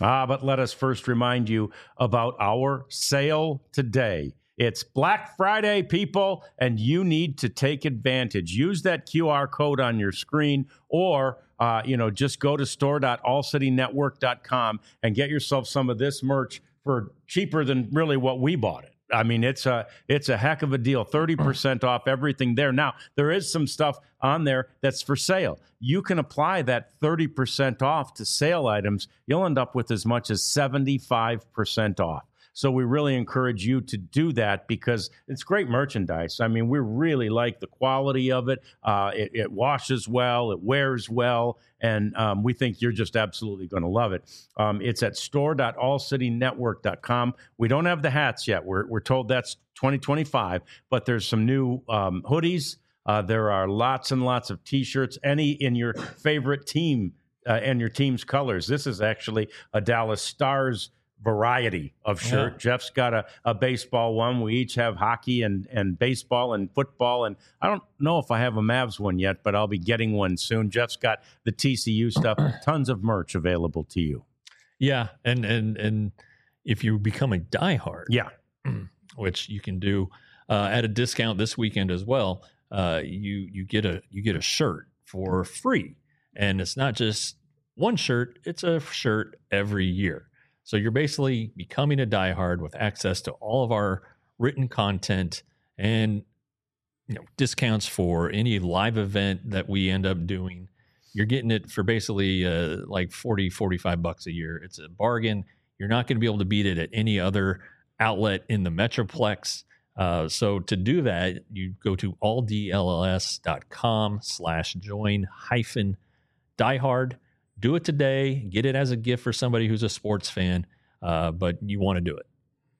Ah, but let us first remind you about our sale today. It's Black Friday, people, and you need to take advantage. Use that Q R code on your screen, or uh, you know, just go to store dot all city network dot com and get yourself some of this merch for cheaper than really what we bought it. I mean, it's a it's a heck of a deal. thirty percent off everything there. Now, there is some stuff on there that's for sale. You can apply that thirty percent off to sale items. You'll end up with as much as seventy-five percent off. So we really encourage you to do that because it's great merchandise. I mean, we really like the quality of it. Uh, it, it washes well, it wears well, and um, we think you're just absolutely going to love it. Um, it's at store dot all city network dot com. We don't have the hats yet. We're, we're told that's twenty twenty-five, but there's some new um, hoodies. Uh, there are lots and lots of T-shirts, any in your favorite team uh, and your team's colors. This is actually a Dallas Stars variety of shirt. Yeah. Jeff's got a, a baseball one. We each have hockey and, and baseball and football. And I don't know if I have a Mavs one yet, but I'll be getting one soon. Jeff's got the T C U stuff. Tons of merch available to you. Yeah. And, and, and if you become a diehard, yeah, which you can do uh, at a discount this weekend as well, uh, you, you get a, you get a shirt for free. And it's not just one shirt, it's a shirt every year. So you're basically becoming a diehard with access to all of our written content and, you know, discounts for any live event that we end up doing. You're getting it for basically uh, like forty, forty-five bucks a year. It's a bargain. You're not going to be able to beat it at any other outlet in the Metroplex. Uh, so to do that, you go to all d l l s dot com slash join hyphen diehard. Do it today. Get it as a gift for somebody who's a sports fan, uh, but you want to do it.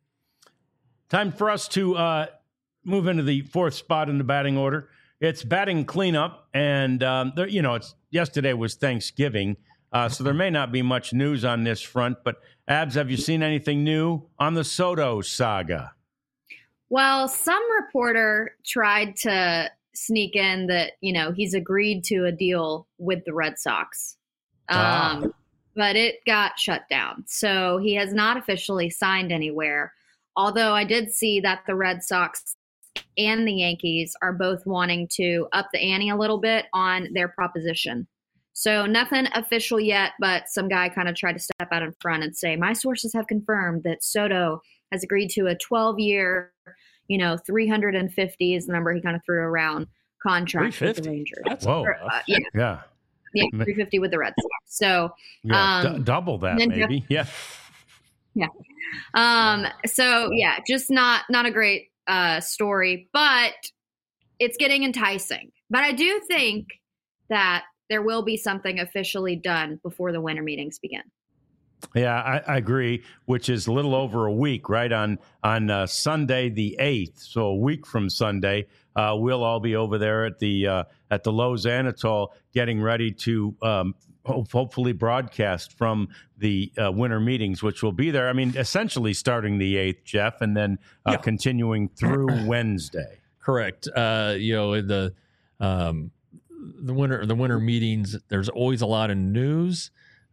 Time for us to uh, move into the fourth spot in the batting order. It's batting cleanup, and um, there, you know, it's yesterday was Thanksgiving, uh, so there may not be much news on this front. But Abs, have you seen anything new on the Soto saga? Well, some reporter tried to sneak in that, you know, he's agreed to a deal with the Red Sox. Um, ah. But it got shut down. So he has not officially signed anywhere. Although I did see that the Red Sox and the Yankees are both wanting to up the ante a little bit on their proposition. So nothing official yet, but some guy kind of tried to step out in front and say, my sources have confirmed that Soto has agreed to a twelve-year, you know, three hundred fifty is the number he kind of threw around contract with the Rangers. That's Whoa. Or, uh, yeah. Yeah. Yeah, three fifty with the Red Sox. So yeah, um, d- double that maybe. Jeff, yeah. Yeah. Um, so yeah, just not not a great uh, story, but it's getting enticing. But I do think that there will be something officially done before the winter meetings begin. Yeah, I, I agree, which is a little over a week, right? On on uh, Sunday the eighth, so a week from Sunday, uh, we'll all be over there at the uh, at the Lowe's Anatol getting ready to um, ho- hopefully broadcast from the uh, winter meetings, which will be there. I mean, essentially starting the eighth, Jeff, and then uh, yeah. continuing through Wednesday. Correct. Uh, you know, the um, the winter the winter meetings. There's always a lot of news.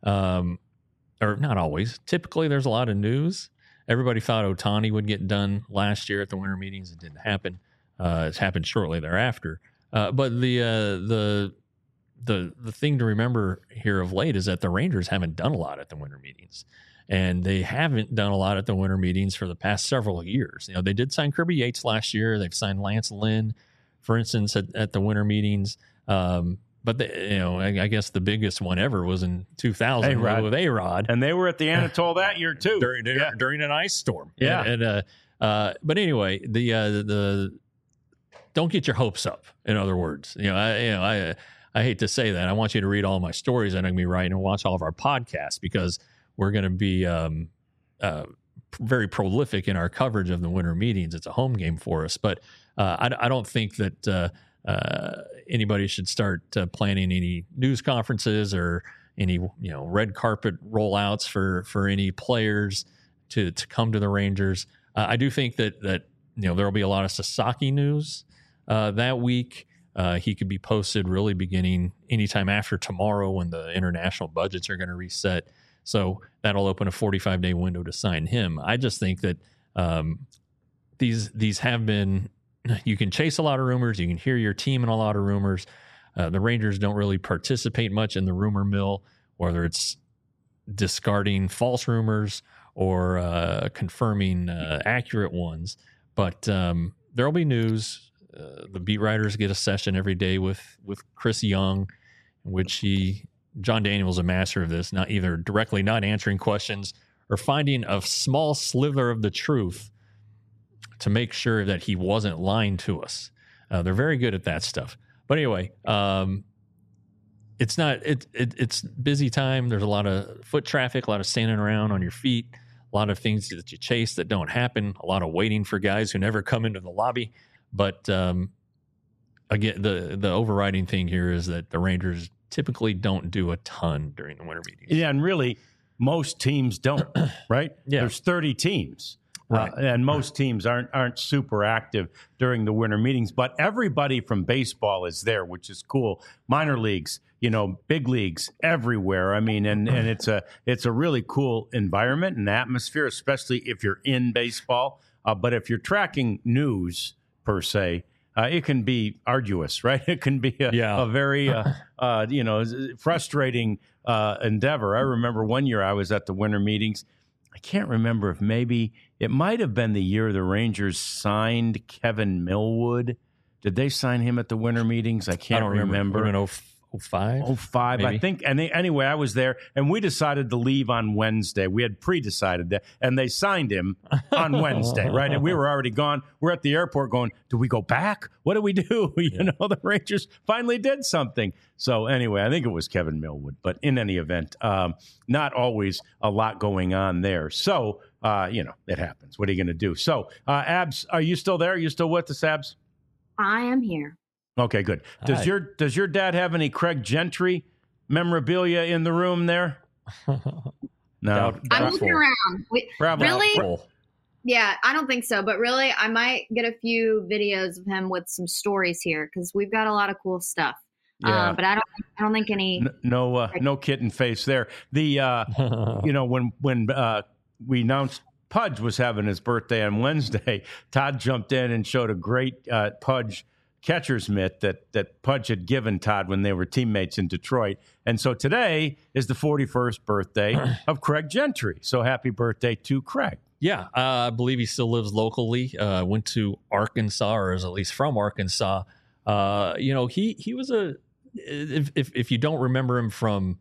Um, Or not always. Typically, there's a lot of news. Everybody thought Ohtani would get done last year at the winter meetings. It didn't happen. Uh, it's happened shortly thereafter. Uh, but the uh, the the the thing to remember here of late is that the Rangers haven't done a lot at the winter meetings, and they haven't done a lot at the winter meetings for the past several years. You know, they did sign Kirby Yates last year. They've signed Lance Lynn, for instance, at, at the winter meetings. Um, But, the, you know, I, I guess the biggest one ever was in two thousand A-Rod. With A-Rod. And they were at the Anatol that year, too. During, yeah. during an ice storm. Yeah. And, and uh, uh, but anyway, the, uh, the don't get your hopes up, in other words. You know, I, you know, I, I hate to say that. I want you to read all my stories that I'm going to be writing and watch all of our podcasts because we're going to be um, uh, very prolific in our coverage of the winter meetings. It's a home game for us. But uh, I, I don't think that uh, – Uh, anybody should start uh, planning any news conferences or any, you know, red carpet rollouts for, for any players to, to come to the Rangers. Uh, I do think that, that, you know, there'll be a lot of Sasaki news uh, that week. Uh, he could be posted really beginning anytime after tomorrow when the international budgets are going to reset. So that'll open a forty-five day window to sign him. I just think that um, these these have been, you can chase a lot of rumors. You can hear your team in a lot of rumors. Uh, the Rangers don't really participate much in the rumor mill, whether it's discarding false rumors or uh, confirming uh, accurate ones. But um, there'll be news. Uh, the beat writers get a session every day with with Chris Young, in which he, John Daniel's a master of this, not either directly not answering questions or finding a small sliver of the truth to make sure that he wasn't lying to us. Uh, they're very good at that stuff. But anyway, um, it's not it, it it's busy time. There's a lot of foot traffic, a lot of standing around on your feet, a lot of things that you chase that don't happen, a lot of waiting for guys who never come into the lobby. But um, again, the the overriding thing here is that the Rangers typically don't do a ton during the winter meetings. Yeah, and really, most teams don't, right? Yeah. There's thirty teams. Right. Uh, and most teams aren't aren't super active during the winter meetings, but everybody from baseball is there, which is cool. Minor leagues, you know, big leagues everywhere. I mean, and, and it's a it's a really cool environment and atmosphere, especially if you're in baseball. Uh, but if you're tracking news per se, uh, it can be arduous, right? It can be a, Yeah. a very uh, uh, you know frustrating uh, endeavor. I remember one year I was at the winter meetings. I can't remember if maybe it might have been the year the Rangers signed Kevin Millwood. Did they sign him at the winter meetings? I can't I don't remember. remember. remember. oh five Oh five, I think. And they, anyway, I was there, and we decided to leave on Wednesday. We had pre-decided that, and they signed him on Wednesday, right? And we were already gone. We're at the airport going, do we go back? What do we do? You Yeah. know, the Rangers finally did something. So anyway, I think it was Kevin Millwood. But in any event, um, not always a lot going on there. So, uh, you know, it happens. What are you going to do? So, uh, Abs, are you still there? Are you still with us, Abs? I am here. Okay, good. Does Hi. your does your dad have any Craig Gentry memorabilia in the room there? No, Doubt- I'm Doubtful. looking around. We, Probably. Really? Doubtful. yeah, I don't think so. But really, I might get a few videos of him with some stories here because we've got a lot of cool stuff. Yeah. Uh, but I don't. I don't think any. N- no, uh, no kitten face there. The uh, you know when when uh, we announced Pudge was having his birthday on Wednesday, Todd jumped in and showed a great uh, Pudge catcher's mitt that that Pudge had given Todd when they were teammates in Detroit. And so today is the forty-first birthday of Craig Gentry. So happy birthday to Craig. Yeah, uh, I believe he still lives locally. Uh, went to Arkansas, or is at least from Arkansas. Uh, you know, he he was a. If, if if you don't remember him from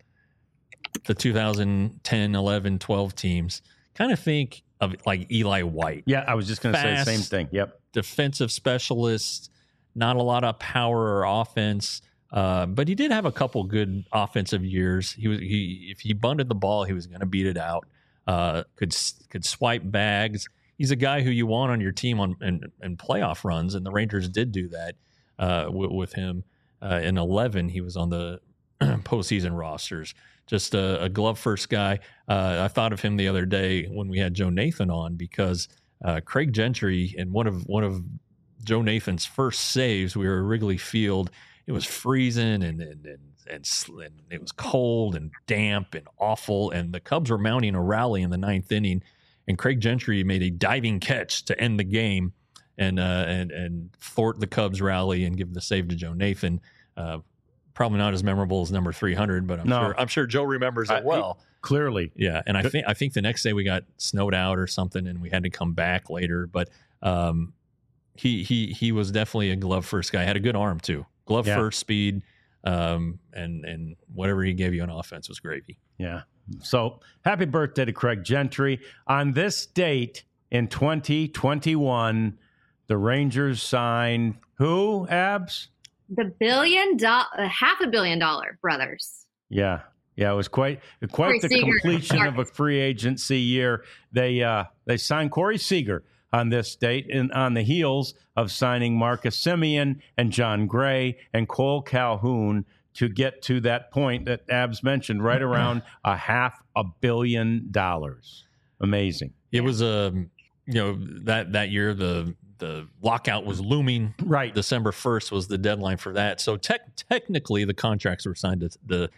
the two thousand ten, eleven, twelve teams, kind of think of like Eli White, Yeah, I was just going to say the Fast. same thing. Yep. defensive specialist, not a lot of power or offense. Uh, but he did have a couple good offensive years. He was he if he bunted the ball, he was going to beat it out. Uh, could could swipe bags. He's a guy who you want on your team on and and playoff runs, and the Rangers did do that uh, w- with him. Uh, in eleven, he was on the postseason rosters. Just a, a glove first guy. Uh, I thought of him the other day when we had Joe Nathan on because uh, Craig Gentry in one of one of Joe Nathan's first saves, we were at Wrigley Field. It was freezing and and and, and sl- and it was cold and damp and awful. And the Cubs were mounting a rally in the ninth inning, and Craig Gentry made a diving catch to end the game and uh, and and thwart the Cubs rally and give the save to Joe Nathan. Uh, probably not as memorable as number three hundred, but I'm No. sure I'm sure Joe remembers Uh, it well. Clearly. Yeah, and I think I think the next day we got snowed out or something, and we had to come back later. But um, he he he was definitely a glove first guy. Had a good arm too. Glove Yeah. first speed, um, and and whatever he gave you on offense was gravy. Yeah. So happy birthday to Craig Gentry. On this date in twenty twenty-one, the Rangers signed who, Abs? The billion dollar, half a billion dollar brothers. Yeah. Yeah, it was quite quite Corey the Seager. completion of a free agency year. They uh, they signed Corey Seager on this date and on the heels of signing Marcus Semien and John Gray and Cole Calhoun to get to that point that Abs mentioned, right around a half a billion dollars. Amazing. It was a um, you know that that year the the lockout was looming. Right. December first was the deadline for that. So tech technically the contracts were signed to the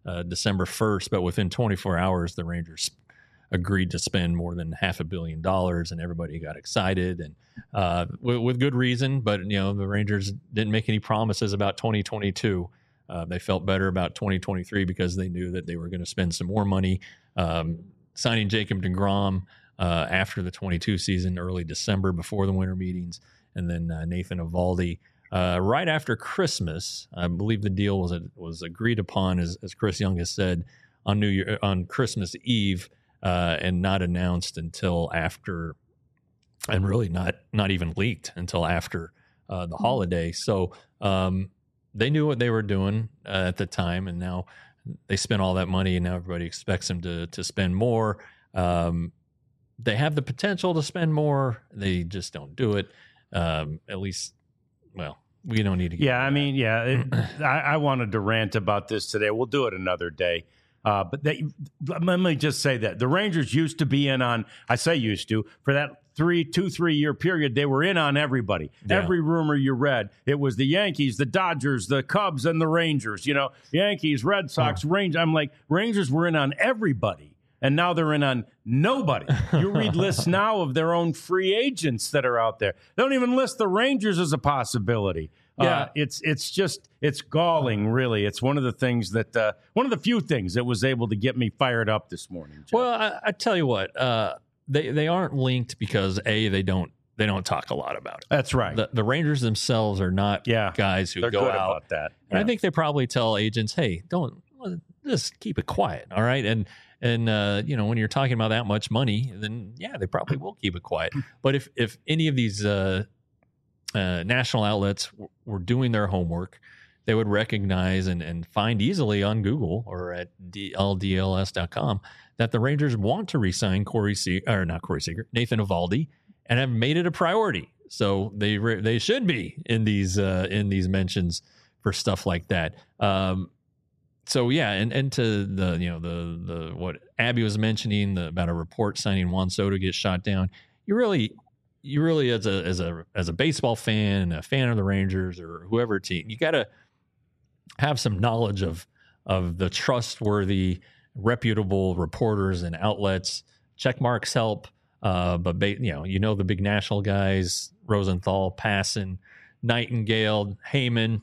uh, December first, but within twenty-four hours, the Rangers agreed to spend more than half a billion dollars, and everybody got excited, and uh, with, with good reason. But you know, the Rangers didn't make any promises about twenty twenty-two. Uh, they felt better about twenty twenty-three because they knew that they were going to spend some more money. Um, signing Jacob deGrom uh, after the twenty-two season, early December, before the winter meetings, and then uh, Nathan Eovaldi uh, right after Christmas. I believe the deal was was agreed upon, as, as Chris Young has said, on New Year on Christmas Eve. Uh, and not announced until after, and really not not even leaked until after uh, the holiday. So um, they knew what they were doing uh, at the time, and now they spent all that money, and now everybody expects them to to spend more. Um, they have the potential to spend more. They just don't do it. Um, at least, well, we don't need to. Get yeah, I mean, yeah, it, I, I wanted to rant about this today. We'll do it another day. Uh, but they, let me just say that the Rangers used to be in on, I say used to, for that three, two, three year period, they were in on everybody. Yeah. Every rumor you read, it was the Yankees, the Dodgers, the Cubs, and the Rangers. You know, Yankees, Red Sox, huh. Rangers. I'm like, Rangers were in on everybody, and now they're in on nobody. You read lists now of their own free agents that are out there. They don't even list the Rangers as a possibility. Yeah, uh, it's it's just it's galling, really. It's one of the things that uh, one of the few things that was able to get me fired up this morning. Jeff. Well, I, I tell you what, uh, they they aren't linked because a they don't they don't talk a lot about it. That's right. The, the Rangers themselves are not yeah, guys who they're go good out about that. Yeah. And I think they probably tell agents, "Hey, don't just keep it quiet, all right?" And and uh, you know, when you're talking about that much money, then yeah, they probably will keep it quiet. But if if any of these uh, Uh, national outlets w- were doing their homework, they would recognize and, and find easily on Google or at D L D L S dot com that the Rangers want to re-sign Corey Se- or not Corey Seager, Nathan Eovaldi, and have made it a priority. So they re- they should be in these uh, in these mentions for stuff like that. Um, so yeah, and, and to the you know the the what Abby was mentioning the, about a report signing Juan Soto gets shot down. You really. You really, as a as a as a baseball fan and a fan of the Rangers or whoever team, you got to have some knowledge of of the trustworthy, reputable reporters and outlets. Check marks help, uh, but ba- you know you know the big national guys: Rosenthal, Passan, Nightingale, Heyman.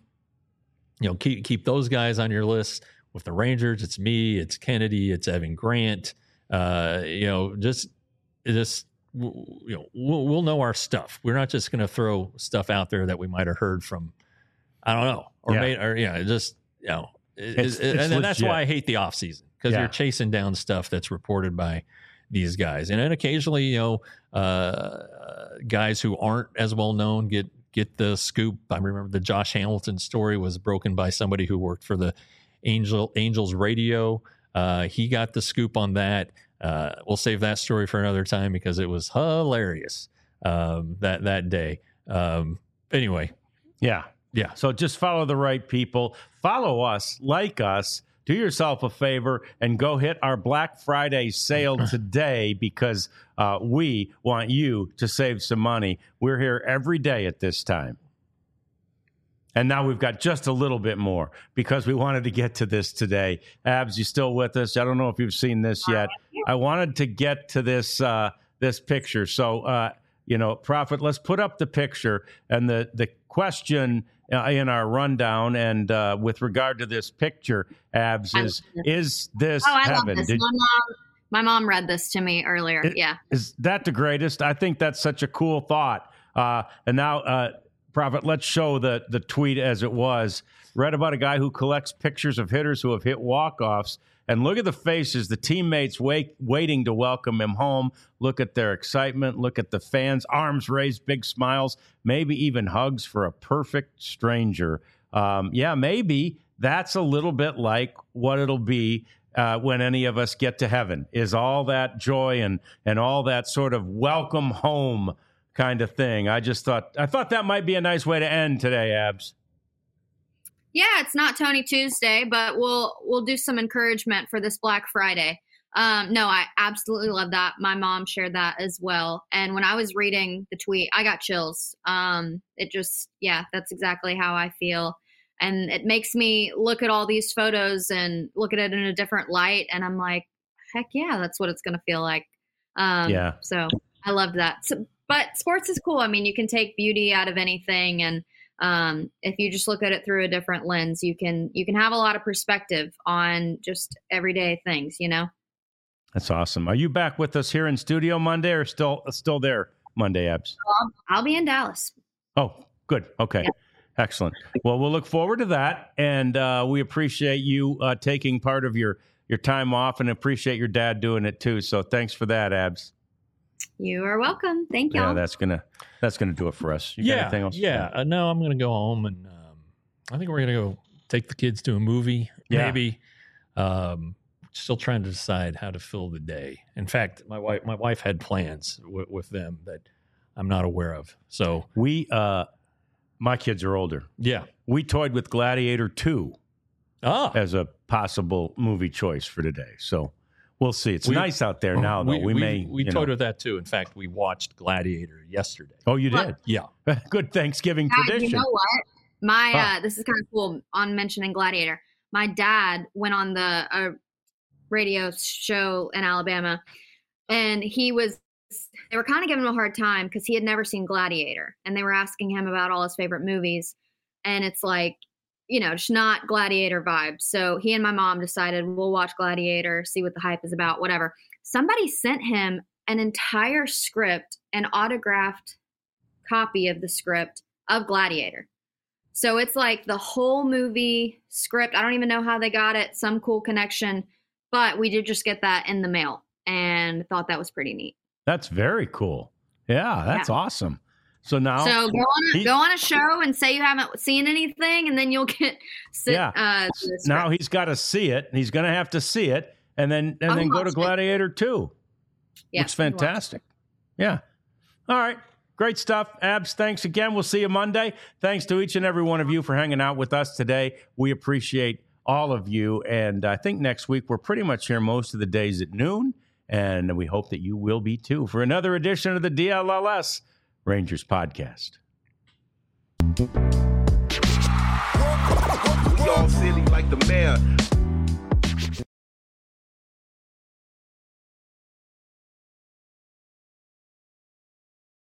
You know, keep keep those guys on your list. With the Rangers, it's me, it's Kennedy, it's Evan Grant. Uh, you know, just just. You know, we'll, we'll know our stuff. We're not just going to throw stuff out there that we might have heard from, I don't know, or yeah. made, or yeah, just you know, it, it's, it, it's and that's why I hate the off season because yeah. you're chasing down stuff that's reported by these guys, and then occasionally, you know, uh, guys who aren't as well known get get the scoop. I remember the Josh Hamilton story was broken by somebody who worked for the Angel Angels radio. Uh, he got the scoop on that. Uh, we'll save that story for another time because it was hilarious um, that that day. Um, anyway, yeah, yeah. So just follow the right people. Follow us, like us. Do yourself a favor and go hit our Black Friday sale today because uh, we want you to save some money. We're here every day at this time. And now we've got just a little bit more because we wanted to get to this today. Abs, you still with us? I don't know if you've seen this yet. I wanted to get to this uh, this picture. So, uh, you know, Prophet, let's put up the picture. And the, the question uh, in our rundown and uh, with regard to this picture, Abs, is, is this oh, I heaven? love this. Did, my, mom, my mom read this to me earlier. It, yeah. Is that the greatest? I think that's such a cool thought. Uh, and now... Uh, Prophet, let's show the, the tweet as it was. Read about a guy who collects pictures of hitters who have hit walk-offs. And look at the faces, the teammates wait, waiting to welcome him home. Look at their excitement. Look at the fans, arms raised, big smiles, maybe even hugs for a perfect stranger. Um, yeah, maybe that's a little bit like what it'll be uh, when any of us get to heaven, is all that joy and and all that sort of welcome home kind of thing. I just thought I thought that might be a nice way to end today, Abs. Yeah, it's not Tony Tuesday, but we'll we'll do some encouragement for this Black Friday. Um, no, I absolutely love that. My mom shared that as well. And when I was reading the tweet, I got chills. Um, it just, yeah, that's exactly how I feel. And it makes me look at all these photos and look at it in a different light. And I'm like, heck yeah, that's what it's going to feel like. Um, Yeah. So I loved that. So, but sports is cool. I mean, you can take beauty out of anything. And um, if you just look at it through a different lens, you can, you can have a lot of perspective on just everyday things, you know? That's awesome. Are you back with us here in studio Monday or still, still there Monday, Abs? I'll, I'll be in Dallas. Oh, good. Okay. Yeah. Excellent. Well, we'll look forward to that. And uh, we appreciate you uh, taking part of your, your time off and appreciate your dad doing it too. So thanks for that, Abs. You are welcome. Thank you. Yeah, that's going to, that's going to do it for us. You got yeah. anything else? Yeah. Uh, no, I'm going to go home and um, I think we're going to go take the kids to a movie. Yeah. Maybe. Um, still trying to decide how to fill the day. In fact, my wife, my wife had plans w- with them that I'm not aware of. So We, uh, my kids are older. yeah. We toyed with Gladiator two Ah, as a possible movie choice for today. So we'll see. It's We- nice out there now, though. We, we may. we you toyed know. with that too. In fact, we watched Gladiator yesterday. Oh, you did? Yeah. Good Thanksgiving God, tradition. you know what? My Huh. uh, this is kind of cool on mentioning Gladiator. My dad went on the uh, radio show in Alabama, and he was. They were kind of giving him a hard time because he had never seen Gladiator, and they were asking him about all his favorite movies, and it's like, you know, just not Gladiator vibes. So he and my mom decided we'll watch Gladiator, see what the hype is about, whatever. Somebody sent him an entire script, an autographed copy of the script of Gladiator. So it's like the whole movie script. I don't even know how they got it, some cool connection, but we did just get that in the mail and thought that was pretty neat. That's very cool. Yeah, that's Yeah. awesome. So now, So go on, a, he- go on a show and say you haven't seen anything, and then you'll get sit, Yeah. uh, to the now script. he's got to see it. He's going to have to see it, and then and I'll then go to watch it. Gladiator two. Yeah, Looks I'll watch it. fantastic. Yeah. All right. Great stuff. Abs, thanks again. We'll see you Monday. Thanks to each and every one of you for hanging out with us today. We appreciate all of you. And I think next week we're pretty much here most of the days at noon. And we hope that you will be too for another edition of the D L L S Rangers podcast. We all silly like the mayor.